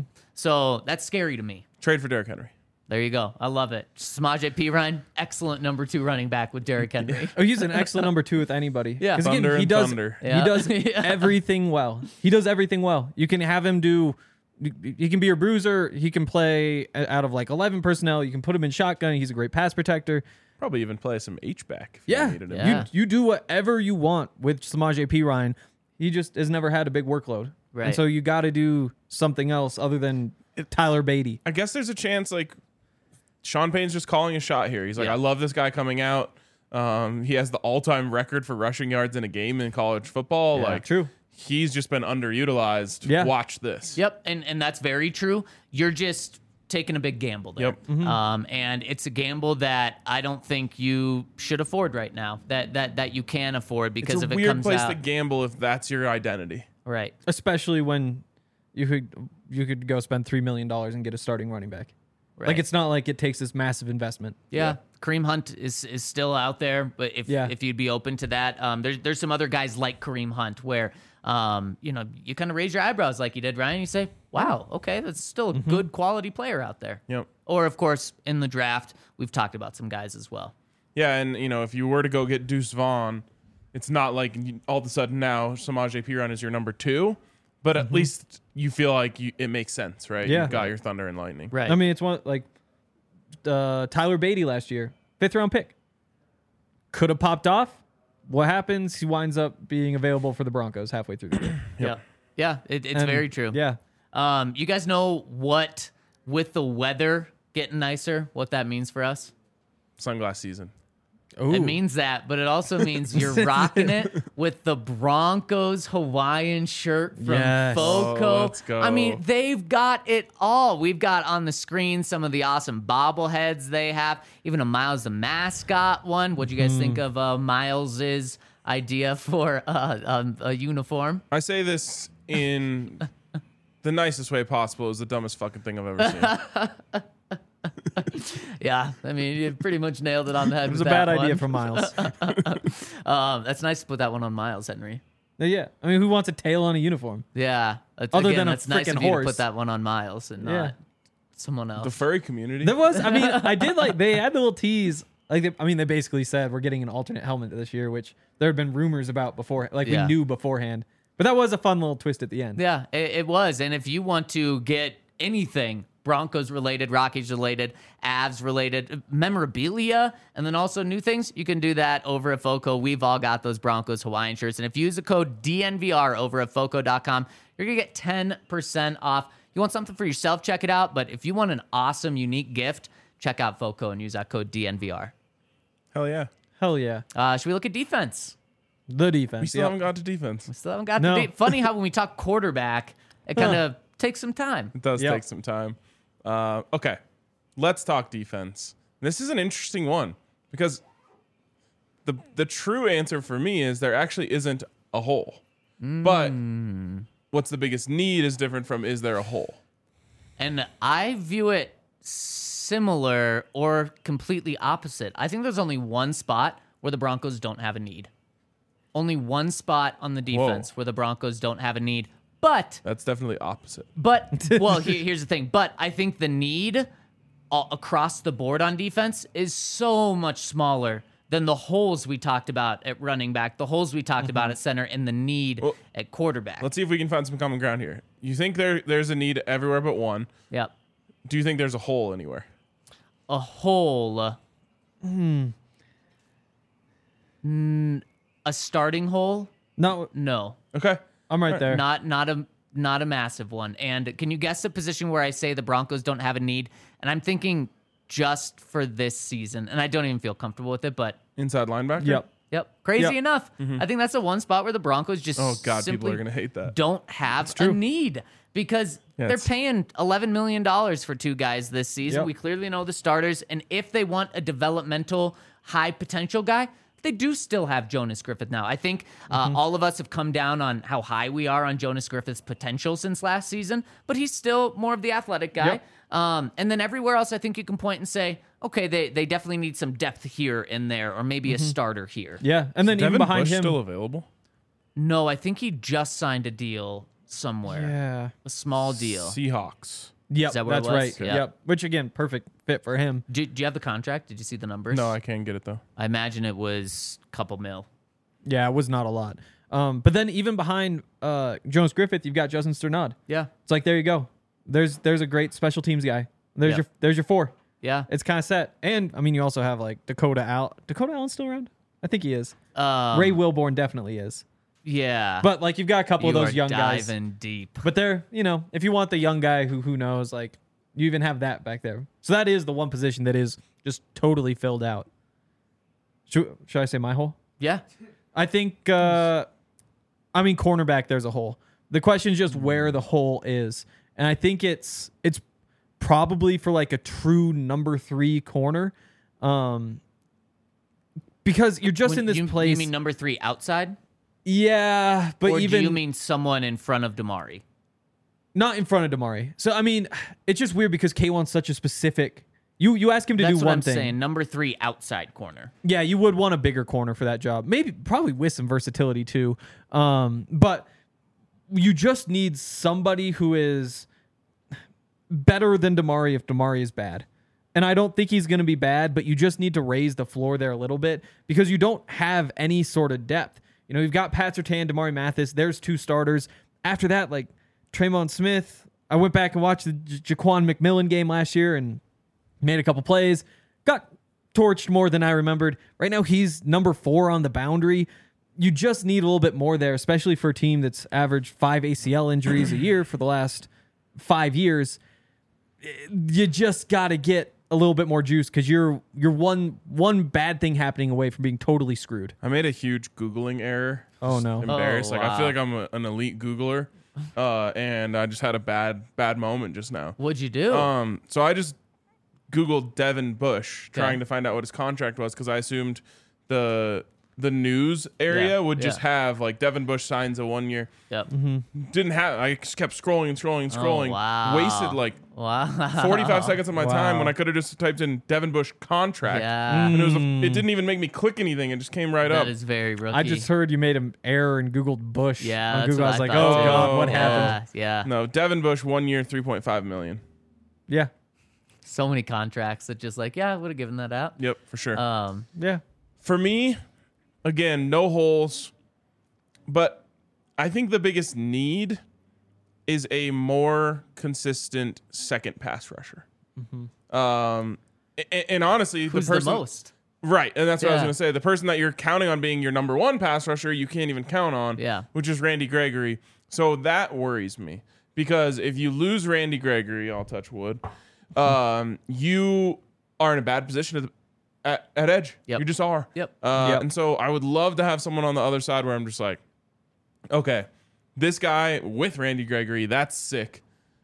So that's scary to me. Trade for Derrick Henry. There you go. I love it. Samaje Perine, excellent number two running back with Derrick Henry. Oh, he's an excellent number two with anybody. Yeah. 'Cause Thunder he and does. thunder. Yeah. He does Yeah. everything well. He does everything well. You can have him do. He can be your bruiser. He can play out of like eleven personnel. You can put him in shotgun. He's a great pass protector. Probably even play some H-back if you Yeah. needed him. Yeah. You you do whatever you want with Samaje Perine. He just has never had a big workload. Right. And so you got to do something else other than Tyler Beatty. I guess there's a chance like Sean Payton's just calling a shot here. He's like, Yeah. I love this guy coming out. Um, he has the all-time record for rushing yards in a game in college football. Yeah, like, true. He's just been underutilized. Yeah. Watch this. Yep, and and that's very true. You're just taking a big gamble there. Yep. Um, and it's a gamble that I don't think you should afford right now. That that that you can afford because It's a if it weird comes place out to gamble if that's your identity. right. Especially when you could you could go spend three million dollars and get a starting running back. Right. Like it's not like it takes this massive investment. Yeah. Kareem Hunt is is still out there, but if Yeah. if you'd be open to that, um, there's there's some other guys like Kareem Hunt where um, you know, you kind of raise your eyebrows like you did, Ryan. You say, "Wow, okay, that's still a good quality player out there." Yep. Or of course, in the draft, we've talked about some guys as well. Yeah, and you know, if you were to go get Deuce Vaughn, it's not like you- all of a sudden now Samaje Perine is your number two, but at least you feel like you, it makes sense, right? Yeah. You got your Thunder and Lightning. Right. I mean, it's one like uh, Tyler Beatty last year, fifth round pick. Could have popped off. What happens? He winds up being available for the Broncos halfway through the year. Yeah. Yeah, it, it's And, very true. Yeah. Um, you guys know what, with the weather getting nicer, what that means for us? Sunglass season. Ooh. It means that, but it also means you're rocking it with the Broncos Hawaiian shirt from Yes. Foco. Oh, let's go. I mean, they've got it all. We've got on the screen some of the awesome bobbleheads they have, even a Miles the mascot one. What'd you guys Mm-hmm. think of uh, Miles's idea for uh, um, a uniform? I say this in the nicest way possible. Is the dumbest fucking thing I've ever seen. Yeah, I mean, you pretty much nailed it on the head. It was a bad idea from Miles. Um, that's nice to put that one on Miles, Henry. Yeah. I mean, who wants a tail on a uniform? Yeah. It's- Other again, than a that's nice frickin' of you to horse. put that one on Miles and Yeah. not someone else. The furry community. There was, I mean, I did like, they had the little tease. Like, they, I mean, they basically said we're getting an alternate helmet this year, which there had been rumors about before. Like, Yeah. we knew beforehand. But that was a fun little twist at the end. Yeah, it, it was. And if you want to get anything Broncos related, Rockies related, Avs related, memorabilia, and then also new things, you can do that over at Foco. We've all got those Broncos Hawaiian shirts. And if you use the code D N V R over at foco dot com, you're going to get ten percent off. You want something for yourself, check it out. But if you want an awesome, unique gift, check out Foco and use that code D N V R. Hell yeah. Hell yeah. Uh, should we look at defense? The defense. We still Yep. haven't got to defense. Still haven't got No. the de- Funny how when we talk quarterback, it kind of takes some time. It does Yep. take some time. Uh, okay, let's talk defense. This is an interesting one because the the true answer for me is there actually isn't a hole. Mm. But what's the biggest need is different from is there a hole? And I view it similar or completely opposite. I think there's only one spot where the Broncos don't have a need. Only one spot on the defense Whoa. where the Broncos don't have a need. But, That's definitely opposite. but, well, here, here's the thing. But I think the need all, across the board on defense is so much smaller than the holes we talked about at running back, the holes we talked about at center, and the need Well, at quarterback. Let's see if we can find some common ground here. You think there there's a need everywhere but one. Yep. Do you think there's a hole anywhere? A hole. Hmm. Mm, a starting hole? No, No. Okay. I'm right there. Not not a not a massive one. And can you guess the position where I say the Broncos don't have a need? And I'm thinking just for this season, and I don't even feel comfortable with it, but Inside linebacker? Yep. yep, crazy Yep. enough. I think that's the one spot where the Broncos just Oh, God, people simply are going to hate that. don't have a true. need because Yeah, they're it's- paying eleven million dollars for two guys this season. Yep. We clearly know the starters. And if they want a developmental, high potential guy, they do still have Jonas Griffith now. I think uh, Mm-hmm. all of us have come down on how high we are on Jonas Griffith's potential since last season, but he's still more of the athletic guy. Yep. Um, and then everywhere else, I think you can point and say, okay, they, they definitely need some depth here and there, or maybe a starter here. Yeah, and then Devin even behind Bush him. still available? No, I think he just signed a deal somewhere, yeah. a small deal. Seahawks. Yep, that what it that's was? right. Yeah. Yep. Which again, perfect fit for him. Do, do you have the contract? Did you see the numbers? No, I can't get it though. I imagine it was a couple mil. Yeah, it was not a lot. Um, but then even behind uh, Jonas Griffith, you've got Justin Sternad. Yeah, It's like there you go. There's there's a great special teams guy. There's Yeah. your there's your four. yeah. It's kind of set. And I mean, you also have like Dakota Al. Dakota Allen's still around? I think he is. Um, Ray Wilborn definitely is. Yeah, But like you've got a couple you of those are young guys. diving deep. But they're, you know, if you want the young guy who who knows, like you even have that back there. So that is the one position that is just totally filled out. Should, should I say my hole? Yeah, I think, uh, I mean, cornerback, there's a hole. The question is just where the hole is. And I think it's it's probably for like a true number three corner. Um, because you're just When- in this you, place. You mean number three outside, yeah, but or even do you mean someone in front of Damari? not in front of Damari. So, I mean, it's just weird because K one's such a specific. You you ask him to That's do what one I'm thing. saying. Number three outside corner. Yeah, you would want a bigger corner for that job. Maybe, probably with some versatility too. Um, but you just need somebody who is better than Damari if Damari is bad. And I don't think he's going to be bad, but you just need to raise the floor there a little bit because you don't have any sort of depth. You know, you've got Pat Surtain, Damari Mathis. There's two starters. After that, like Tremont Smith, I went back and watched the J- Jaquan McMillan game last year and made a couple plays, got torched more than I remembered. Right now, he's number four on the boundary. You just need a little bit more there, especially for a team that's averaged five A C L injuries a year for the last five years. You just got to get a little bit more juice because you're you're one one bad thing happening away from being totally screwed. I made a huge Googling error. Oh, Just no. Embarrassed. Oh, Like I feel wow. like I'm a, an elite Googler. Uh, and I just had a bad, bad moment just now. What'd you do? Um, so I just Googled Devin Bush, Okay. trying to find out what his contract was because I assumed the the news area Yeah, would just yeah. have like Devin Bush signs a one year. yep. Didn't have. I just kept scrolling and scrolling and scrolling. Oh, wow. Wasted like Wow. forty-five seconds of my time Wow. when I could have just typed in Devin Bush contract. Yeah. And it was. A, it didn't even make me click anything. It just came right up. That is very rookie. I just heard you made an error and Googled Bush. Yeah, on that's Google. what I was I like, thought, oh too. God, what Oh. happened? Yeah, yeah. No, Devin Bush, one year, three point five million. Yeah, So many contracts that just like, yeah, I would have given that out. Yep, for sure. Um, yeah. For me, again, no holes, but I think the biggest need is a more consistent second pass rusher. Um, and, and honestly, who's the the, person, most? right? And that's what I was Yeah. going to say. The person that you're counting on being your number one pass rusher, you can't even count on. Yeah. which is Randy Gregory. So that worries me because if you lose Randy Gregory, I'll touch wood. Um, you are in a bad position at, at, at edge. Yep. You just are. Yep. Uh, Yep. And so I would love to have someone on the other side where I'm just like, okay, this guy with Randy Gregory, that's sick.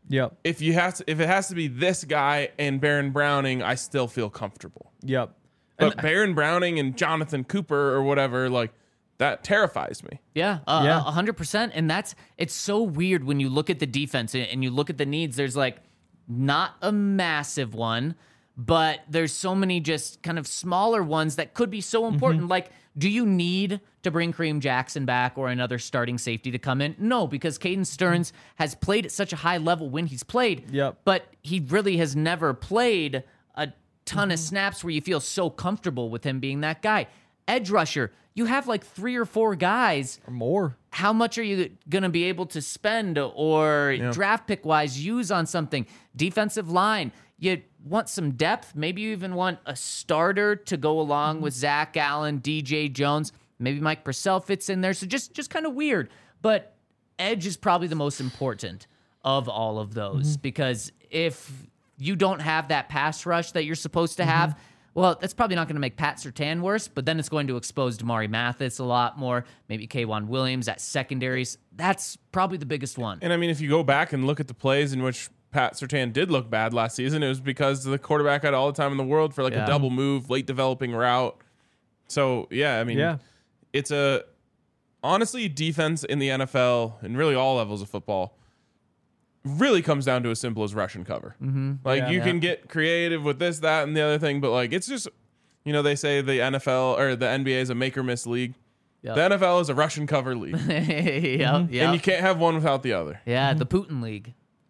Yep. If you have to, if it has to be this guy and Baron Browning, I still feel comfortable. Yep. But Baron Browning and Jonathan Cooper or whatever, like that terrifies me. Yeah, uh, Yeah. a hundred percent. And that's it's so weird when you look at the defense and you look at the needs. There's like not a massive one, but there's so many just kind of smaller ones that could be so important. Mm-hmm. Like, do you need to bring Kareem Jackson back or another starting safety to come in? No, because Caden Stearns has played at such a high level when he's played. Yep. But he really has never played a ton Mm-hmm. of snaps where you feel so comfortable with him being that guy. Edge rusher, you have like three or four guys. Or more. How much are you going to be able to spend or draft pick wise use on something? Defensive line, you want some depth. Maybe you even want a starter to go along with Zach Allen, D J Jones. Maybe Mike Purcell fits in there. So just, just kind of weird. But edge is probably the most important of all of those because if you don't have that pass rush that you're supposed to have, well, that's probably not going to make Pat Surtain worse, but then it's going to expose Damari Mathis a lot more, maybe K'Wan Williams at secondaries. That's probably the biggest one. And I mean, if you go back and look at the plays in which Pat Surtain did look bad last season, it was because the quarterback had all the time in the world for like Yeah. a double move, late developing route. So, yeah, I mean, Yeah. it's a honestly defense in the N F L and really all levels of football really comes down to as simple as rush and cover. Mm-hmm. Like Yeah. you Yeah. can get creative with this, that, and the other thing, but like it's just, you know, they say the N F L or the N B A is a make or miss league. Yep. The N F L is a rush and cover league, yep, yep. and you can't have one without the other. Yeah, the Putin League.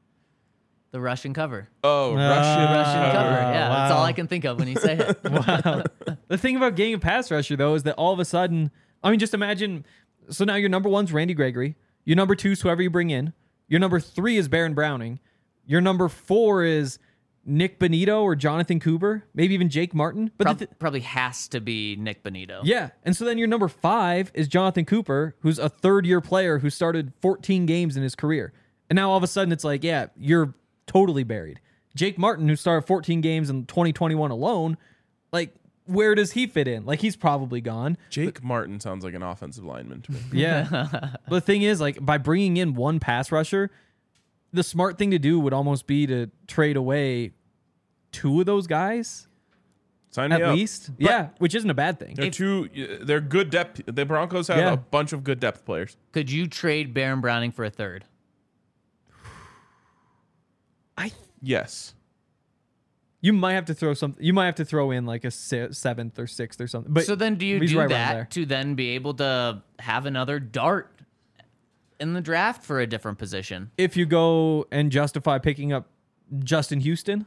The Russian cover. Oh, Ah. Russian, Russian cover. cover. Yeah, that's all wow. I can think of when you say it. Wow. The thing about getting a pass rusher, though, is that all of a sudden, I mean, just imagine. So now your number one's Randy Gregory. Your number two is whoever you bring in. Your number three is Baron Browning. Your number four is Nick Bonito or Jonathan Cooper, maybe even Jake Martin. But Prob- the th- probably has to be Nick Bonito. yeah, and so then your number five is Jonathan Cooper, who's a third-year player who started fourteen games in his career. And now all of a sudden it's like, yeah, you're totally buried. Jake Martin, who started fourteen games in twenty twenty-one alone, like, where does he fit in? Like, he's probably gone. Jake Martin sounds like an offensive lineman to me. Yeah. But the thing is, like, by bringing in one pass rusher, the smart thing to do would almost be to trade away two of those guys Sign me at up. least. Yeah, which isn't a bad thing. They're two. They're good depth. The Broncos have Yeah. a bunch of good depth players. Could you trade Baron Browning for a third? I Yes. you might have to throw some. You might have to throw in like a se- seventh or sixth or something. But So then do you he's do right around there. that to then be able to have another dart in the draft for a different position? If you go and justify picking up Justin Houston,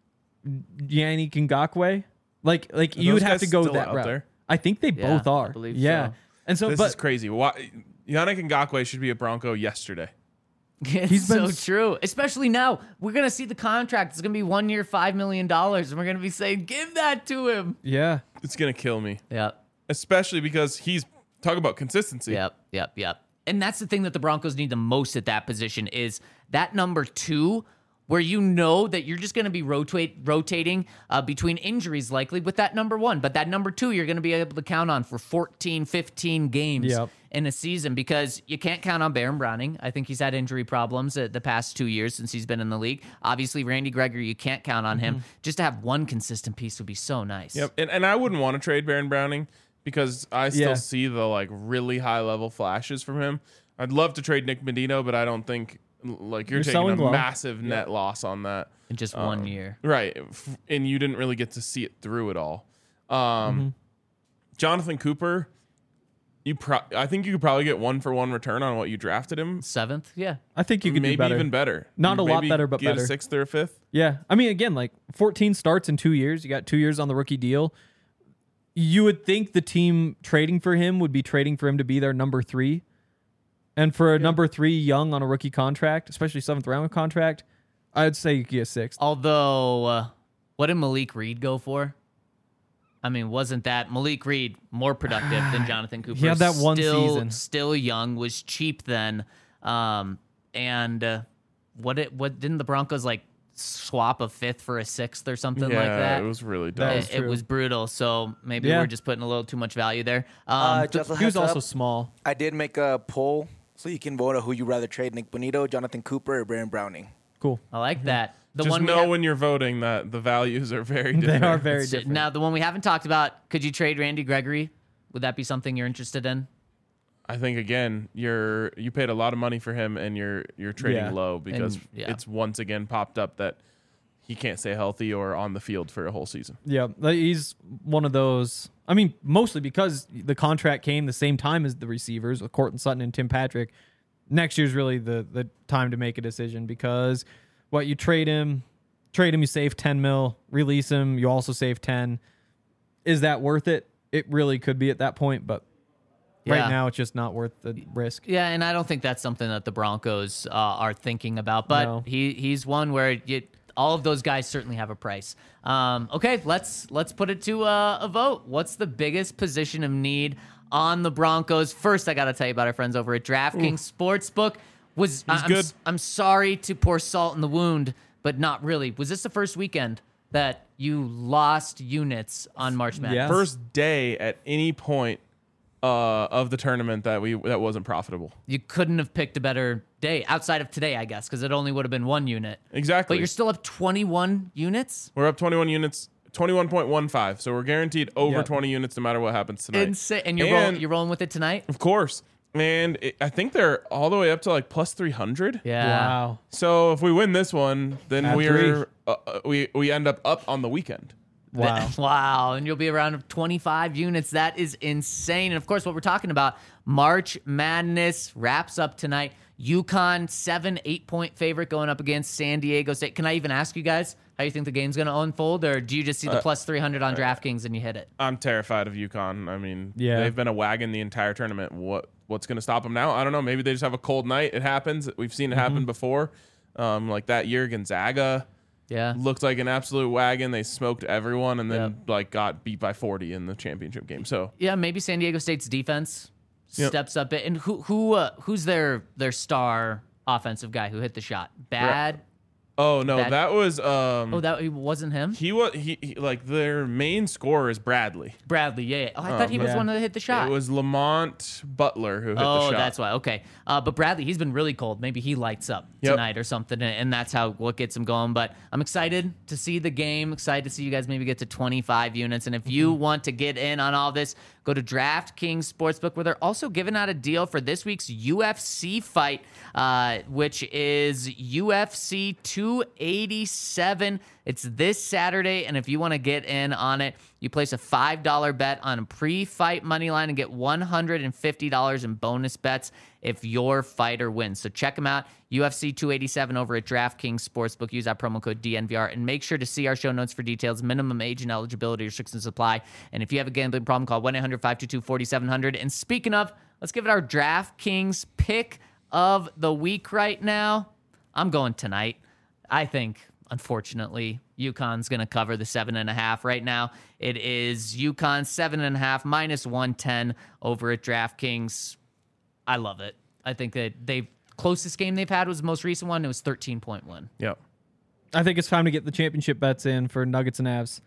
Yannick Ngakoue, like like Are you would those have to guys go still that out route. there? I think they Yeah, both are. I believe yeah. so. And so, This but is crazy. Why, Yannick Ngakoue should be a Bronco yesterday. It's He's been so s- true. Especially now. We're going to see the contract. It's going to be one year, five million dollars. And we're going to be saying, give that to him. yeah, It's gonna kill me, Yep. especially because he's talk about consistency. Yep, yep, yep. And that's the thing that the Broncos need the most at that position is that number two, where you know that you're just going to be rotate rotating uh, between injuries likely with that number one. But that number two, you're going to be able to count on for fourteen, fifteen games Yep. in a season because you can't count on Baron Browning. I think he's had injury problems uh, the past two years since he's been in the league. Obviously, Randy Gregory, you can't count on him. Just to have one consistent piece would be so nice. Yep. And, and I wouldn't want to trade Baron Browning because I still Yeah. see the like really high level flashes from him. I'd love to trade Nick Medino, but I don't think like you're, You're taking selling a low. massive net loss on that. In just one year. Right. F- And you didn't really get to see it through it all. Um, Jonathan Cooper, you pro- I think you could probably get one for one return on what you drafted him. Seventh? Yeah. I think you could Maybe do better. even better. Not a lot Maybe better, but get better. a sixth or a fifth. Yeah. I mean, again, like fourteen starts in two years. You got two years on the rookie deal. You would think the team trading for him would be trading for him to be their number three. And for a number three young on a rookie contract, especially seventh round contract, I'd say you could get sixth. Although, uh, what did Malik Reed go for? I mean, wasn't that Malik Reed more productive than Jonathan Cooper? He had that one still, season. Still young, was cheap then. Um, and uh, what it what didn't the Broncos like swap a fifth for a sixth or something yeah, like that? it was really That dumb. was it, it true. was brutal. So maybe Yeah. we're just putting a little too much value there. Um, Uh, th- just a He was heads also up, small. I did make a poll so you can vote on who you rather trade: Nick Bonito, Jonathan Cooper, or Baron Browning. Cool. I like that. The Just one we know have- when you're voting that the values are very They different. are very So, different. now, the one we haven't talked about, could you trade Randy Gregory? Would that be something you're interested in? I think again, you're you paid a lot of money for him, and you're you're trading Yeah. low because And- yeah. it's once again popped up that he can't stay healthy or on the field for a whole season. Yeah, like, he's one of those. I mean, mostly because the contract came the same time as the receivers with Cortland Sutton and Tim Patrick. Next year's really the the time to make a decision because what you trade him, trade him, you save ten mil, release him, you also save ten. Is that worth it? It really could be at that point, but Yeah. right now it's just not worth the risk. Yeah, and I don't think that's something that the Broncos uh, are thinking about. But No. he he's one where you, all of those guys certainly have a price. Um, okay, let's let's put it to uh, a vote. What's the biggest position of need on the Broncos? First, I got to tell you about our friends over at DraftKings Sportsbook. Was I- I'm, good. s- I'm sorry to pour salt in the wound, but not really. Was this the first weekend that you lost units on March Madness? Yeah. First day at any point uh, of the tournament that we that wasn't profitable. You couldn't have picked a better day outside of today, I guess, because it only would have been one unit. Exactly. But you're still up twenty-one units? We're up twenty-one units, twenty-one point one five. So we're guaranteed over Yep. twenty units no matter what happens tonight. Insane. And you're, And- rolling, you're rolling with it tonight? Of course. And it, I think they're all the way up to like plus three hundred. Yeah. Wow. So if we win this one, then Add we're uh, uh, we we end up up on the weekend. Wow. Wow. And you'll be around twenty-five units. That is insane. And of course, what we're talking about, March Madness wraps up tonight. UConn, seven, eight point favorite going up against San Diego State. Can I even ask you guys how you think the game's going to unfold? Or do you just see the plus three hundred on DraftKings and you hit it? I'm terrified of UConn. I mean, Yeah. they've been a wagon the entire tournament. What what's going to stop them now? I don't know. Maybe they just have a cold night. It happens. We've seen it Mm-hmm. happen before. Um, like that year, Gonzaga Yeah. looked like an absolute wagon. They smoked everyone and then Yep. like got beat by forty in the championship game. So Yeah, maybe San Diego State's defense Yep. steps up it. And who who uh, who's their their star offensive guy who hit the shot? Bad. oh no, That- that, was um Oh, that it wasn't him. he was he, he like their main scorer is Bradley. Bradley. Yeah. yeah. Oh, I thought he was yeah. one that hit the shot. It was Lamont Butler who hit Oh, the shot. that's why. Okay. Uh, but Bradley, he's been really cold. Maybe he lights up Yep. tonight or something, and, and that's how what gets him going. But I'm excited to see the game. Excited to see you guys maybe get to twenty-five units. And if you want to get in on all this, go to DraftKings Sportsbook, where they're also giving out a deal for this week's U F C fight, uh, which is U F C two eighty-seven. It's this Saturday, and if you want to get in on it, you place a five dollar bet on a pre-fight money line and get one hundred fifty dollars in bonus bets if your fighter wins. So check them out, U F C two eighty-seven over at DraftKings Sportsbook. Use that promo code D N V R, and make sure to see our show notes for details, minimum age and eligibility restrictions apply. And if you have a gambling problem, call one eight hundred five two two four seven zero zero. And speaking of, let's give it our DraftKings pick of the week right now. I'm going tonight. I think, unfortunately, UConn's going to cover the seven and a half right now. It is UConn seven and a half minus one ten over at DraftKings. I love it. I think that they closest game they've had was the most recent one. It was thirteen point one. Yep. I think it's time to get the championship bets in for Nuggets and Avs.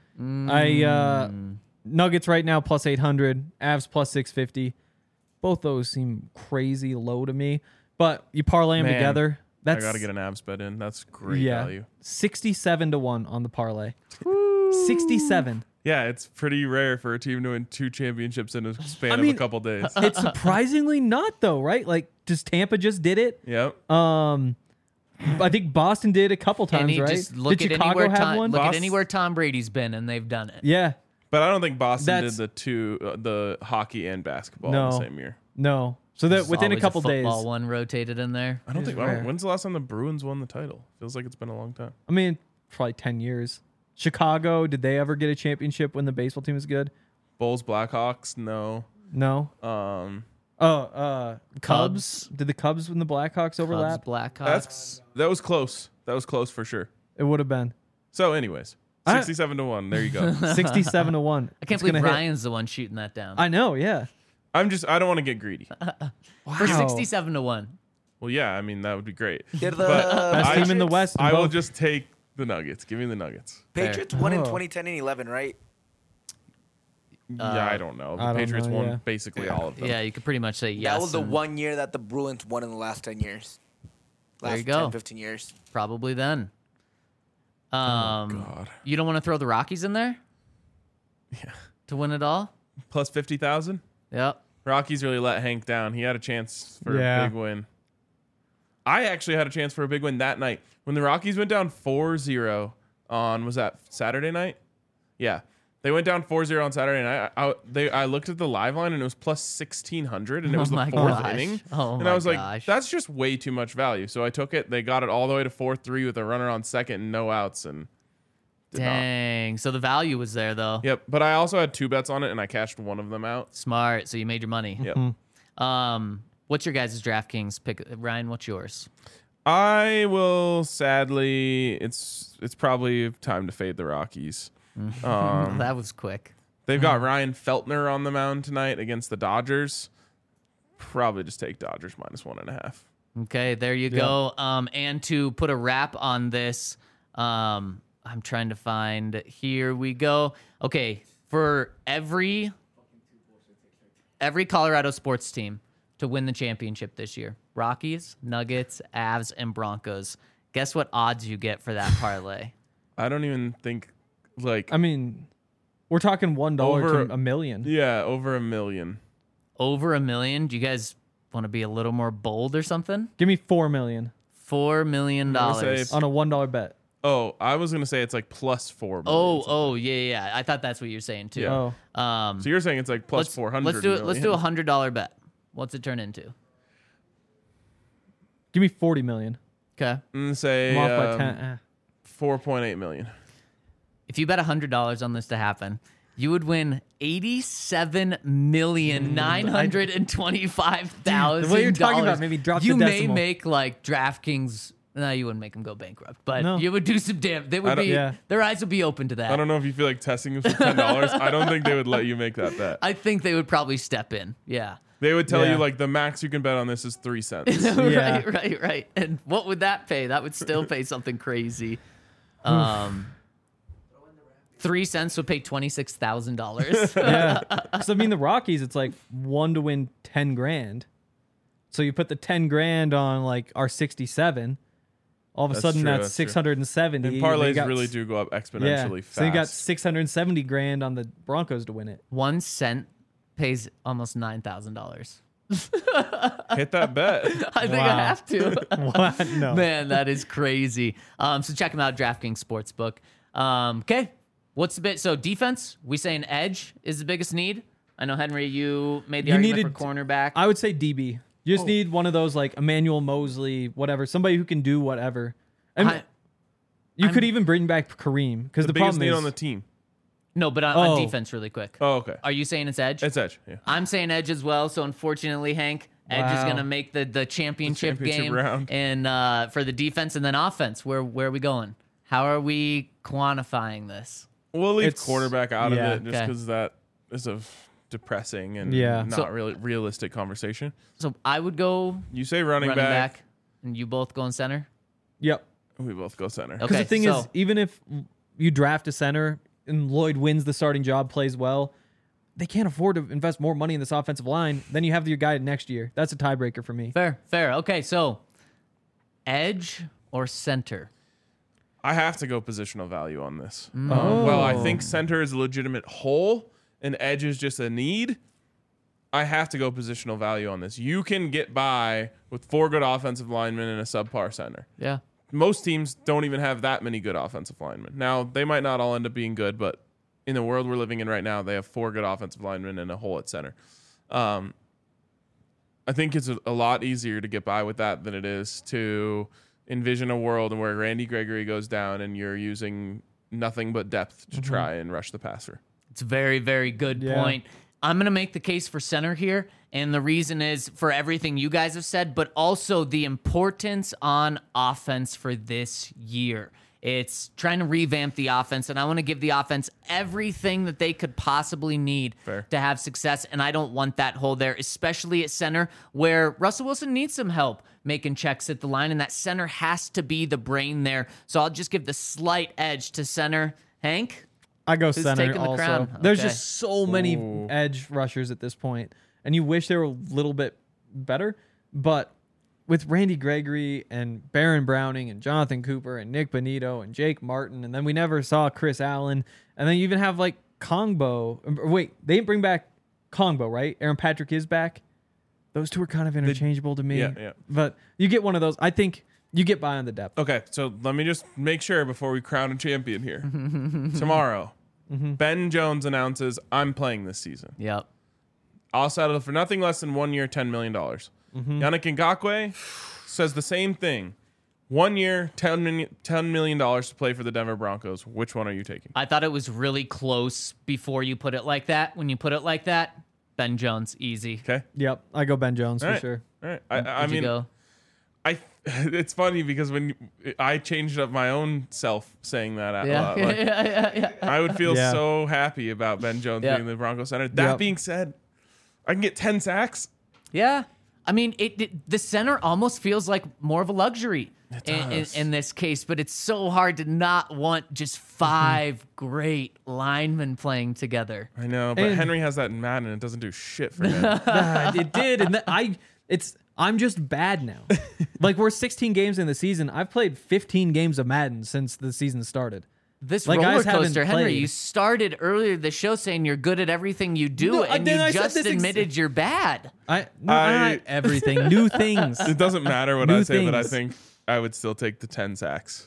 I uh, Nuggets right now plus eight hundred, Avs plus six fifty. Both those seem crazy low to me, but you parlay them Man, together. That's I got to get an abs bet in. That's great yeah, value. sixty-seven to one on the parlay. sixty-seven. Yeah, it's pretty rare for a team to win two championships in a span I of mean- a couple days. It's surprisingly not though, right? Like, just Tampa just did it. Yep. Um, I think Boston did a couple times, Any, right? just look did at Chicago anywhere have Tom, one? look at Bos- anywhere Tom Brady's been, and they've done it. Yeah. But I don't think Boston That's- did the two, uh, the hockey and basketball No. in the same year. No. So that There's within a always couple days. football one rotated in there. I don't It think. is I don't- rare. when's the last time the Bruins won the title? Feels like it's been a long time. I mean, probably ten years. Chicago, did they ever get a championship when the baseball team was good? Bulls, Blackhawks, no. No. Um, Oh, uh, Cubs. Cubs. Did the Cubs and the Blackhawks overlap? Cubs, Blackhawks. that's that was close. That was close for sure. It would have been So, anyways, I- sixty-seven to one. There you go. sixty-seven to one. I can't It's believe gonna hit. Ryan's the one shooting that down. I know. Yeah. I'm just. I don't want to get greedy. For Wow. sixty-seven to one. Well, yeah. I mean, that would be great. They're the But Best I- team in the West. in I will both. just take the Nuggets. Give me the Nuggets. Patriots won in Oh. twenty ten and eleven, right? yeah, I don't know. The I don't Patriots know, won yeah. basically all of them. Yeah, you could pretty much say yes. that was the and- one year that the Bruins won in the last ten years. There you Last go. ten, fifteen years. Probably then. Um, God. You don't want to throw the Rockies in there Yeah. to win it all? Plus fifty thousand. Yep. Rockies really let Hank down. He had a chance for Yeah. a big win. I actually had a chance for a big win that night. When the Rockies went down four zero on, was that Saturday night? Yeah. They went down four zero on Saturday night. I, I, they, I looked at the live line and it was plus sixteen hundred and it Oh was the my fourth gosh. inning. Oh and my I was like, gosh. that's just way too much value. So I took it. They got it all the way to four three with a runner on second and no outs. And did not. Dang. So the value was there, though. Yep. But I also had two bets on it and I cashed one of them out. Smart. So you made your money. Yep. Um, what's your guys' DraftKings pick? Ryan, what's yours? I will sadly. It's it's probably time to fade the Rockies. Um, that was quick. they've got Ryan Feltner on the mound tonight against the Dodgers. Probably just take Dodgers minus one and a half. Okay, there you go. Um, and to put a wrap on this, um, I'm trying to find. Here we go. Okay, for every every Colorado sports team to win the championship this year, Rockies, Nuggets, Avs, and Broncos. Guess what odds you get for that parlay? I don't even think like I mean, we're talking one dollar Over- to a million. yeah over a million. Over a million. Do you guys want to be a little more bold or something? Give me four million Four million gonna say dollars. on a one dollar bet. Oh, I was gonna say it's like plus four. Oh, million. oh, yeah, yeah. yeah. I thought that's what you're saying too. Yeah. Oh, Um, So you're saying it's like plus let's, four hundred. Let's do it. Let's do a hundred dollar bet. What's it turn into? give me forty million. Okay. And say I'm off by um, ten. eh. four point eight million. If you bet a hundred dollars on this to happen, you would win eighty-seven million nine hundred and twenty-five thousand. The way you're talking about maybe drop the You may decimal. make like DraftKings. No, you wouldn't make them go bankrupt, but No. you would do some damn. They I would don't- be. Yeah. Their eyes would be open to that. I don't know if you feel like testing them for ten dollars. I don't think they would let you make that bet. I think they would probably step in. Yeah. They would tell Yeah. you like the max you can bet on this is three cents. Yeah. right, right, right. And what would that pay? That would still pay something crazy. Um, three cents would pay twenty six thousand dollars. Yeah. So I mean, the Rockies, it's like one to win ten grand. So you put the ten grand on like our sixty-seven. All of a That's sudden, true, that's, that's true. six hundred seventy. And You parlays got really s- do go up Yeah. exponentially fast. So you got six hundred seventy grand on the Broncos to win it. One cent pays almost nine thousand dollars. Hit that bet. I think I Wow. have to. What? No. Man, that is crazy. Um, so check them out, DraftKings Sportsbook. Um, okay, what's the bit? So defense, we saying edge is the biggest need. I know Henry, you made the You argument needed- for cornerback. I would say D B. You Oh. just need one of those like Emmanuel Mosley, whatever, somebody who can do whatever. And I- you I'm- could even bring back Kareem because The, the, biggest problem need is on the team. no, but on, on Oh. defense, really quick. Oh, okay. Are you saying it's edge? It's edge. Yeah. I'm saying edge as well. So unfortunately, Hank, edge is Wow. going to make the the championship, championship game round. and uh, for the defense and then offense. Where where are we going? How are we quantifying this? We'll leave It's- quarterback out yeah. of it just Okay. because that is a f- depressing and Yeah. not So- really realistic conversation. So I would go You say running, running back, back. and you both go in center. Yep. we both go center. Okay. Because the thing so- is, even if you draft a center and Lloyd wins the starting job, plays well, they can't afford to invest more money in this offensive line. Then you have your guy next year. That's a tiebreaker for me. Fair, fair. Okay, so edge or center? I have to go positional value on this. Mm. Um, well, I Oh. think center is a legitimate hole and edge is just a need. I have to go positional value on this. You can get by with four good offensive linemen and a subpar center. Yeah. Most teams don't even have that many good offensive linemen. Now, they might not all end up being good, but in the world we're living in right now, they have four good offensive linemen and a hole at center. Um, I think it's a, a lot easier to get by with that than it is to envision a world where Randy Gregory goes down and you're using nothing but depth to try and rush the passer. It's a very, very good Yeah. point. I'm going to make the case for center here. And the reason is for everything you guys have said, but also the importance on offense for this year. It's trying to revamp the offense, and I want to give the offense everything that they could possibly need Fair. to have success. And I don't want that hole there, especially at center, where Russell Wilson needs some help making checks at the line, and that center has to be the brain there. So I'll just give the slight edge to center. Hank? I go Who's center taking the also. crown? There's Okay. just so many edge rushers at this point, and you wish they were a little bit better, but with Randy Gregory and Baron Browning and Jonathan Cooper and Nick Bonito and Jake Martin, and then we never saw Chris Allen, and then you even have like Kongbo. Wait, they didn't bring back Kongbo, right? Aaron Patrick is back. Those two are kind of interchangeable to me. Yeah, yeah. But you get one of those. I think you get by on the depth. Okay, so let me just make sure before we crown a champion here. Tomorrow, Ben Jones announces, I'm playing this season. Yep. I'll settle for nothing less than one year, ten million dollars. Yannick Ngakoue says the same thing. One year, ten million dollars to play for the Denver Broncos. Which one are you taking? I thought it was really close before you put it like that. When you put it like that, Ben Jones, easy. Okay. Yep, I go Ben Jones All for right. sure. All right. I, I Where'd you mean, go? I. It's funny because when you, I changed up my own self saying that out Yeah. loud, like, yeah, yeah, yeah. I would feel Yeah. so happy about Ben Jones Yeah. being the Broncos center. That Yep. being said, I can get ten sacks. Yeah. I mean, it, it the center almost feels like more of a luxury in, in, does. in this case, but it's so hard to not want just five great linemen playing together. I know, but And- Henry has that in Madden and it doesn't do shit for him. Ah, it did, and th- I. It's. I'm just bad now. Like we're sixteen games in the season. I've played fifteen games of Madden since the season started. This Like, roller guys haven't coaster, Henry, played. you started earlier the show saying you're good at everything you do, No, and then you I said just this ex- admitted you're bad. I no, I- not everything, new things. It doesn't matter what New I say, but I things. think I would still take the ten sacks.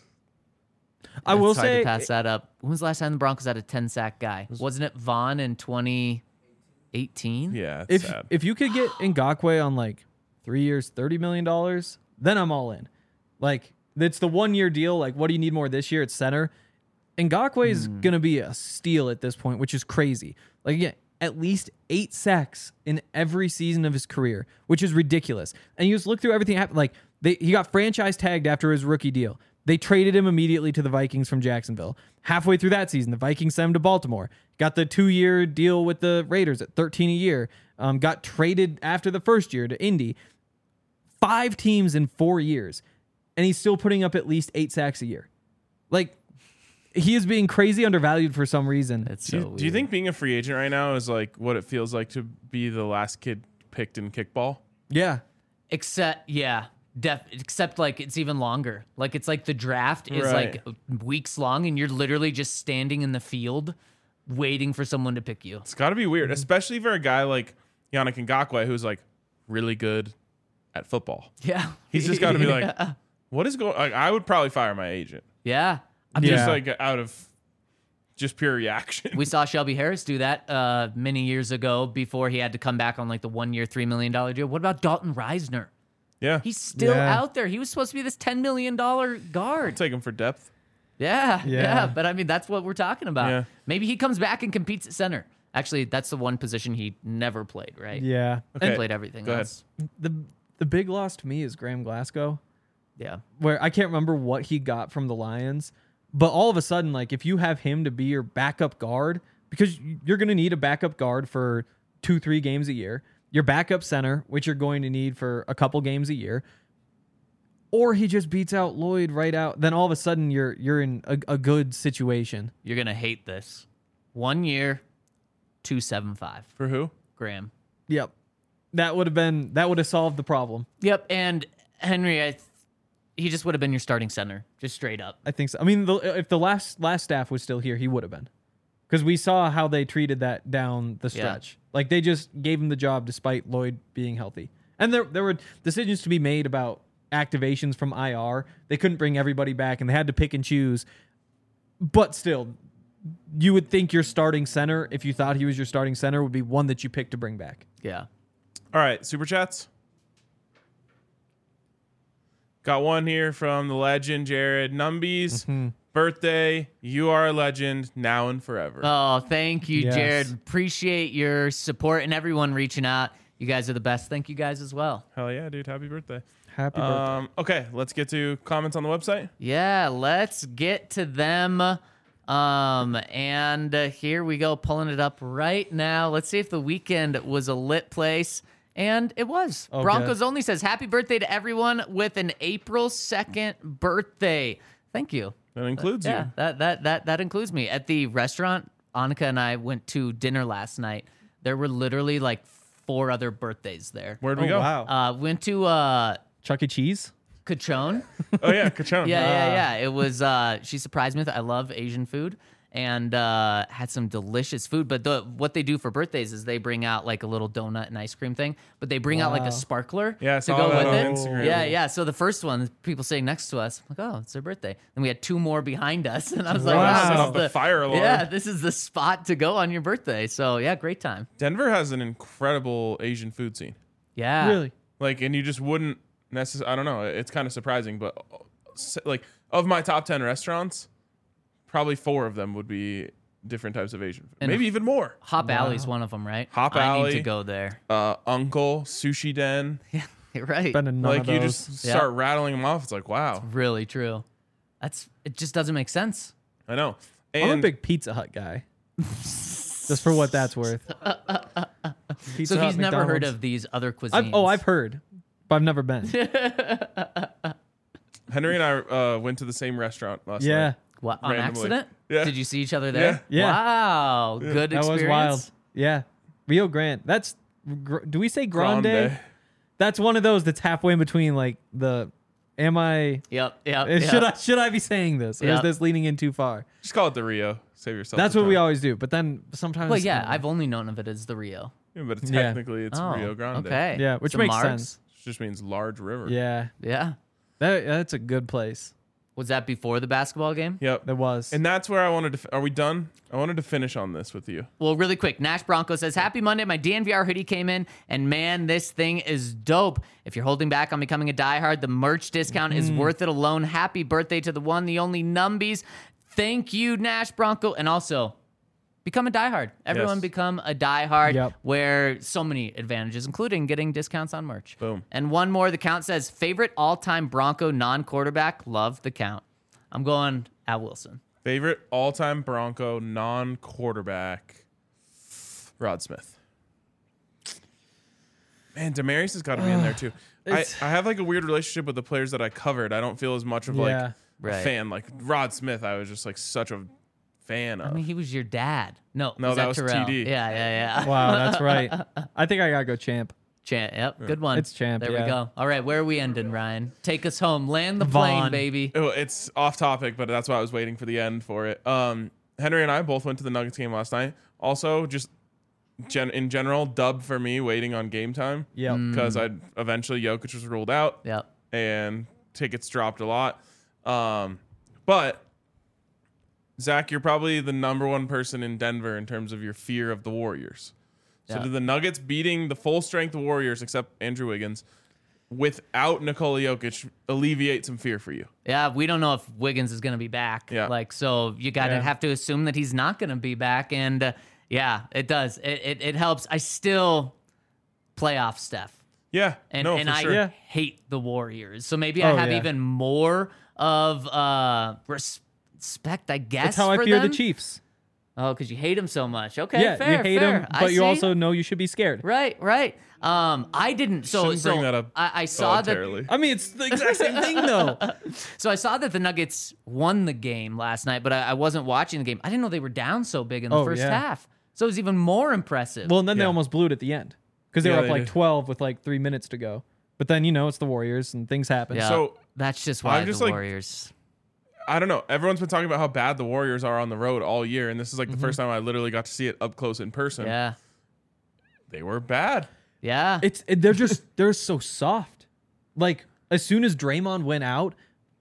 I will It's hard say, to pass that up. When was the last time the Broncos had a ten sack guy? Wasn't it Vaughn in twenty eighteen? Yeah, it's if sad. if you could get Ngakoue on like three years, thirty million dollars, then I'm all in. Like it's the one year deal. Like what do you need more this year at center? Ngakoue is Hmm. gonna be a steal at this point, which is crazy. Like again, at least eight sacks in every season of his career, which is ridiculous. And you just look through everything happened. Like they, he got franchise tagged after his rookie deal. They traded him immediately to the Vikings from Jacksonville. Halfway through that season, the Vikings sent him to Baltimore. Got the two-year deal with the Raiders at thirteen a year. Um, got traded after the first year to Indy. Five teams in four years, and he's still putting up at least eight sacks a year. Like he is being crazy undervalued for some reason. It's do, so you, do you weird. think being a free agent right now is like what it feels like to be the last kid picked in kickball? Yeah. Except, yeah, def, except like it's even longer. Like it's like the draft is Right. like weeks long, and you're literally just standing in the field waiting for someone to pick you. It's got to be weird, Mm-hmm. especially for a guy like Yannick Ngakoue who's like really good at football. Yeah, He's just got to be like, what is going? Like, I would probably fire my agent. yeah. I'm Yeah. just like out of just pure reaction. We saw Shelby Harris do that uh, many years ago before he had to come back on like the one-year, three million dollar deal. What about Dalton Reisner? yeah, He's still Yeah. out there. He was supposed to be this ten million dollar guard. take him for depth. Yeah, yeah, Yeah. But I mean, that's what we're talking about. Yeah. Maybe he comes back and competes at center. Actually, that's the one position he never played, right? Yeah. He Okay, played everything go ahead. else. The the big loss to me is Graham Glasgow, Yeah. where I can't remember what he got from the Lions, but all of a sudden, like if you have him to be your backup guard, because you're going to need a backup guard for two, three games a year, your backup center, which you're going to need for a couple games a year, or he just beats out Lloyd right out, then all of a sudden you're you're in a, a good situation. You're gonna hate this. One year, two seven five. For who? Graham. Yep, that would have been that would have solved the problem. Yep. And Henry, I th- he just would have been your starting center, just straight up. I think so. I mean, the, if the last last staff was still here, he would have been, because we saw how they treated that down the Yeah. stretch. Like they just gave him the job despite Lloyd being healthy, and there there were decisions to be made about activations from I R. They couldn't bring everybody back, and they had to pick and choose. But still, you would think your starting center, if you thought he was your starting center, would be one that you picked to bring back. Yeah. All right, super chats. Got one here from the legend Jared Numbies. Mm-hmm. Birthday, you are a legend now and forever. Oh, thank you, Yes. Jared. Appreciate your support and everyone reaching out. You guys are the best. Thank you guys as well. Hell yeah, dude! Happy birthday. Happy birthday. Um, okay, let's get to comments on the website. Yeah, let's get to them. Um, and uh, here we go, pulling it up right now. Let's see if the weekend was a lit place. And it was. Okay. Broncos Only says, happy birthday to everyone with an April second birthday. Thank you. That includes Yeah, you. that, that, that, that includes me. At the restaurant, Annika and I went to dinner last night. There were literally like four other birthdays there. Where'd Oh, we go? wow. Uh, went to uh, Chuck E. Cheese. Cachone. Oh yeah, Kachon. Yeah, yeah, yeah. It was. Uh, she surprised me with it. I love Asian food, and uh, had some delicious food. But the what they do for birthdays is they bring out like a little donut and ice cream thing, but they bring out like Wow. a sparkler Yeah, I to saw go that with on it. Instagram. Yeah, yeah. So the first one, people sitting next to us, I'm like, oh, it's their birthday. And we had two more behind us, and I was like, Wow. wow, Set this off is the the fire alarm. Yeah, this is the spot to go on your birthday. So yeah, great time. Denver has an incredible Asian food scene. Yeah, Really? Like, and you just wouldn't necessarily. I don't know. It's kind of surprising, but uh, s- like of my top ten restaurants, probably four of them would be different types of Asian food. And- Maybe even more. Hop Alley's one of them, right? Hop I Alley. need to go there. Uh, Uncle Sushi Den. You're right. Been to none Like of you those. just Yeah. start rattling them off. It's like wow. Really true. That's it. Just doesn't make sense. I know. I'm a And big Pizza Hut guy. Just for what that's worth. Pizza So Hut, he's never heard McDonald's. of these other cuisines. I've, oh, I've heard, but I've never been. Henry and I uh, went to the same restaurant last yeah, night. What, on randomly. accident? Yeah. Did you see each other there? Yeah. Yeah. Wow. Good that experience. was wild. Yeah, Rio Grande. That's. gr- Do we say Grande? Grande. That's one of those that's halfway in between. Like the, am I? Yep. Yep. uh, yep. Should I? Should I be saying this, or Yep. is this leaning in too far? Just call it the Rio. Save yourself. That's the what we time. always do. But then sometimes. Well, yeah. I've only known of it as the Rio. Yeah, but Yeah. technically it's oh, Rio Grande. Okay. Yeah, which Some makes marks. sense. It just means large river. Yeah, Yeah. that that's a good place. Was that before the basketball game? Yep. That was. And that's where I wanted to. F- Are we done? I wanted to finish on this with you. Well, really quick, Nash Bronco says, Happy Monday. My D N V R hoodie came in, and man, this thing is dope. If you're holding back on becoming a diehard, the merch discount is worth it alone. Happy birthday to the one, the only Numbies. Thank you, Nash Bronco. And also, become a diehard. Everyone Yes. become a diehard, Yep. where so many advantages, including getting discounts on merch. Boom. And one more, the count says, favorite all-time Bronco non-quarterback. Love the count. I'm going at Wilson. Favorite all-time Bronco non-quarterback, Rod Smith. Man, Demarius has got to be in there too. I, It's- I have like a weird relationship with the players that I covered. I don't feel as much of like Yeah. a Right. fan. Like Rod Smith, I was just like such a fan of. I mean, he was your dad. No, No, that was Terrell? T D. Yeah, yeah, yeah. Wow, that's right. I think I gotta go champ. Champ. Yep, good one. It's Champ, There yeah. we go. All right, where are we ending, Ryan? Take us home. Land the plane, Vaughn. baby. Oh, it's off topic, but that's why I was waiting for the end for it. Um, Henry and I both went to the Nuggets game last night. Also, just gen- in general, dub for me waiting on game time. Yep. Because I eventually Jokic was ruled out. Yep. And tickets dropped a lot. Um, but Zach, you're probably the number one person in Denver in terms of your fear of the Warriors. So Yeah. do the Nuggets beating the full strength Warriors, except Andrew Wiggins, without Nikola Jokic, alleviate some fear for you? Yeah, we don't know if Wiggins is going to be back. Yeah. Like, so you got to Yeah. have to assume that he's not going to be back. And uh, yeah, it does. It, it it helps. I still playoff Steph. Yeah, And, no, and for I sure. Yeah. hate the Warriors. So maybe I Oh, have yeah. even more of uh, res- respect, I guess. That's how I for fear them. the Chiefs. Oh, because you hate him so much. Okay, yeah, fair, you hate fair. them, I but you see. also know you should be scared. Right, right. Um, I didn't. So, Shouldn't so bring that up I, I saw that. voluntarily. I mean, it's the exact same thing, though. So I saw that the Nuggets won the game last night, but I, I wasn't watching the game. I didn't know they were down so big in the Oh, first yeah. half. So it was even more impressive. Well, and then they Yeah. almost blew it at the end because they Yeah, were up they like did. twelve with like three minutes to go. But then you know it's the Warriors and things happen. yeah, so, that's just why I'm just the like- Warriors. I don't know. Everyone's been talking about how bad the Warriors are on the road all year, and this is like Mm-hmm. the first time I literally got to see it up close in person. Yeah, They were bad. yeah. It's it, they're just they're so soft. Like as soon as Draymond went out,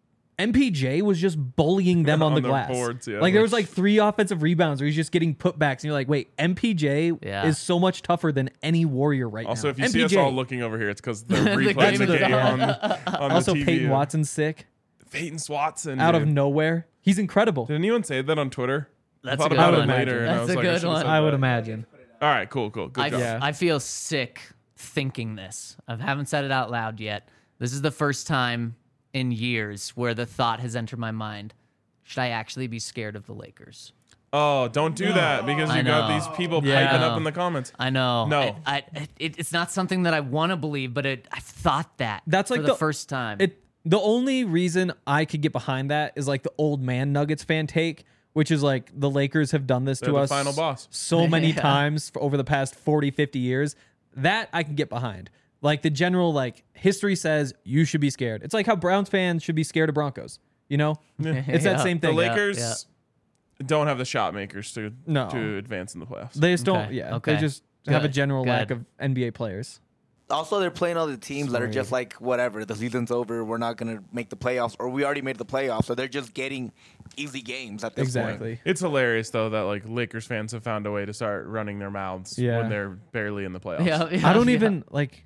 M P J was just bullying them on, On the their glass. boards, yeah. Like there was like three offensive rebounds where he's just getting putbacks, and you're like, wait, M P J Yeah. is so much tougher than any Warrior right Also, now. if you M P J, see us all looking over here, it's because the replaying game the is game on. on, on also the T V. Peyton Watson's sick Peyton Swatson. out of dude. nowhere. He's incredible. Did anyone say that on Twitter? That's I a thought good about one. it later, and I That's was a like, I good should've one. said I would that. imagine. All right, cool, cool, good I, job. Yeah. I feel sick thinking this. I haven't said it out loud yet. This is the first time in years where the thought has entered my mind. Should I actually be scared of the Lakers? Oh, don't do that because I you got know. these people Yeah. piping I up know. in the comments. I know. No. I, I, it, it's not something that I want to believe, but it, I've thought that That's like for the, the- first time. It the only reason I could get behind that is like the old man Nuggets fan take, which is like the Lakers have done this They're to the us final boss. so many Yeah. times for over the past forty, fifty years. That I can get behind. Like the general like history says you should be scared. It's like how Browns fans should be scared of Broncos. You know, it's that Yeah. same The thing. Lakers yeah. don't have the shot makers to No. to advance in the playoffs. They just don't. Okay, Yeah, okay. they just have a Good, general lack good. of N B A players. Also, they're playing all the teams that are Sorry. just like, whatever, the season's over, we're not going to make the playoffs, or we already made the playoffs, so they're just getting easy games at this point. Exactly. It's hilarious though that like Lakers fans have found a way to start running their mouths Yeah. when they're barely in the playoffs. Yeah, yeah, I don't yeah. even like.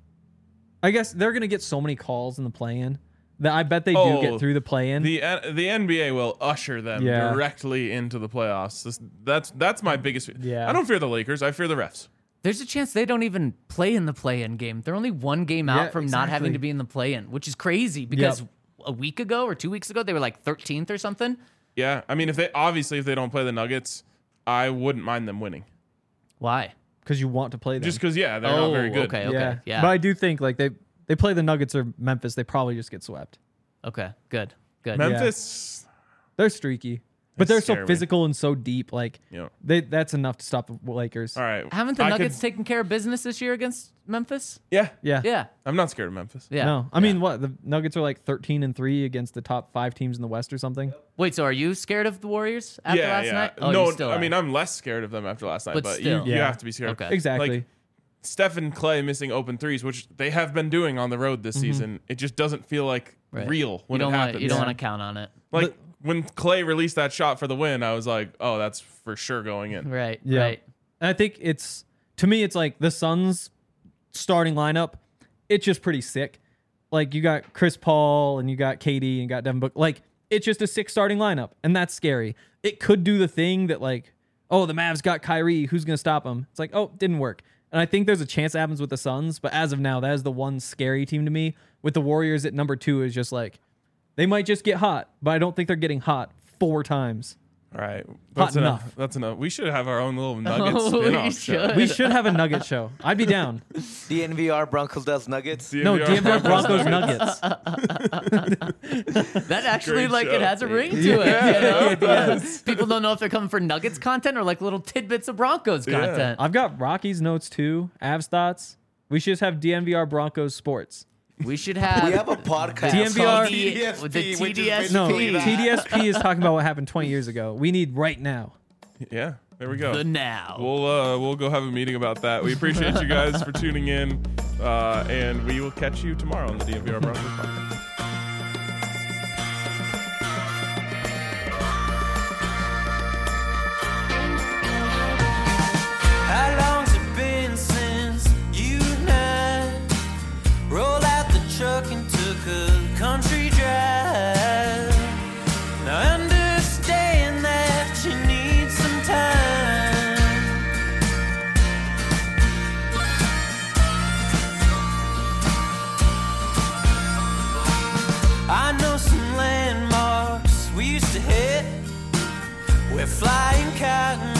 I guess they're gonna get so many calls in the play-in that I bet they do Oh, get through the play-in. The N- the N B A will usher them Yeah. directly into the playoffs. This, that's that's my biggest. Yeah. I don't fear the Lakers. I fear the refs. There's a chance they don't even play in the play-in game. They're only one game out Yeah, from not having exactly. to be in the play-in, which is crazy because Yep. a week ago or two weeks ago they were like thirteenth or something. Yeah, I mean, if they obviously if they don't play the Nuggets, I wouldn't mind them winning. Why? Because you want to play them. Just because, yeah, they're oh, not very good. okay, okay, yeah. yeah, But I do think like they they play the Nuggets or Memphis, they probably just get swept. okay, good, good. Memphis, They're streaky, but They they're so scare me. physical and so deep. Like you know. they that's enough to stop the Lakers. All right, Haven't the I Nuggets could- taken care of business this year against Memphis? Yeah, Yeah. Yeah, I'm not scared of Memphis. yeah. No, I mean what the Nuggets are like thirteen and three against the top five teams in the West or something. Wait, so are you scared of the Warriors after yeah, last yeah. night? Oh, no, you still I are. mean, I'm less scared of them after last night, But but, still. you, you Yeah. have to be scared. Okay. Exactly. Like Stephen Clay missing open threes, which they have been doing on the road this season. It just doesn't feel like Right. real when you don't it wanna- happens. You don't Yeah. want to count on it. Like when Clay released that shot for the win, I was like, "Oh, that's for sure going in." Right, Yeah. right. And I think it's to me, it's like the Suns starting lineup. It's just pretty sick. Like you got Chris Paul and you got K D and you got Devin Booker. Like it's just a sick starting lineup, and that's scary. It could do the thing that like, oh, the Mavs got Kyrie. Who's gonna stop them? It's like, oh, didn't work. And I think there's a chance it happens with the Suns, but as of now, that is the one scary team to me. With the Warriors at number two is just like they might just get hot, but I don't think they're getting hot four times. All right, that's Hot enough. enough. That's enough. We should have our own little Nuggets Oh, we spin-off show. should. We should have a Nugget show. I'd be down. D N V R Broncos does Nuggets. No, D M V R Broncos Nuggets. That actually, Great like, show. it has a ring to it. You know? People don't know if they're coming for Nuggets content or like little tidbits of Broncos Yeah. content. I've got Rockies notes too, Avs thoughts. We should just have D M V R Broncos sports. We should have. We have a podcast D M V R called T D S P, with the which T D S P. is No, basically that. T D S P is talking about what happened twenty years ago. We need right now. Yeah, there we go. The now. We'll uh, we'll go have a meeting about that. We appreciate you guys for tuning in, uh, and we will catch you tomorrow on the D M V R Broncos podcast. How long's it been since you and I rolled out the truck and took a country drive? Now I understand that you need some time. I know some landmarks we used to hit where flying cotton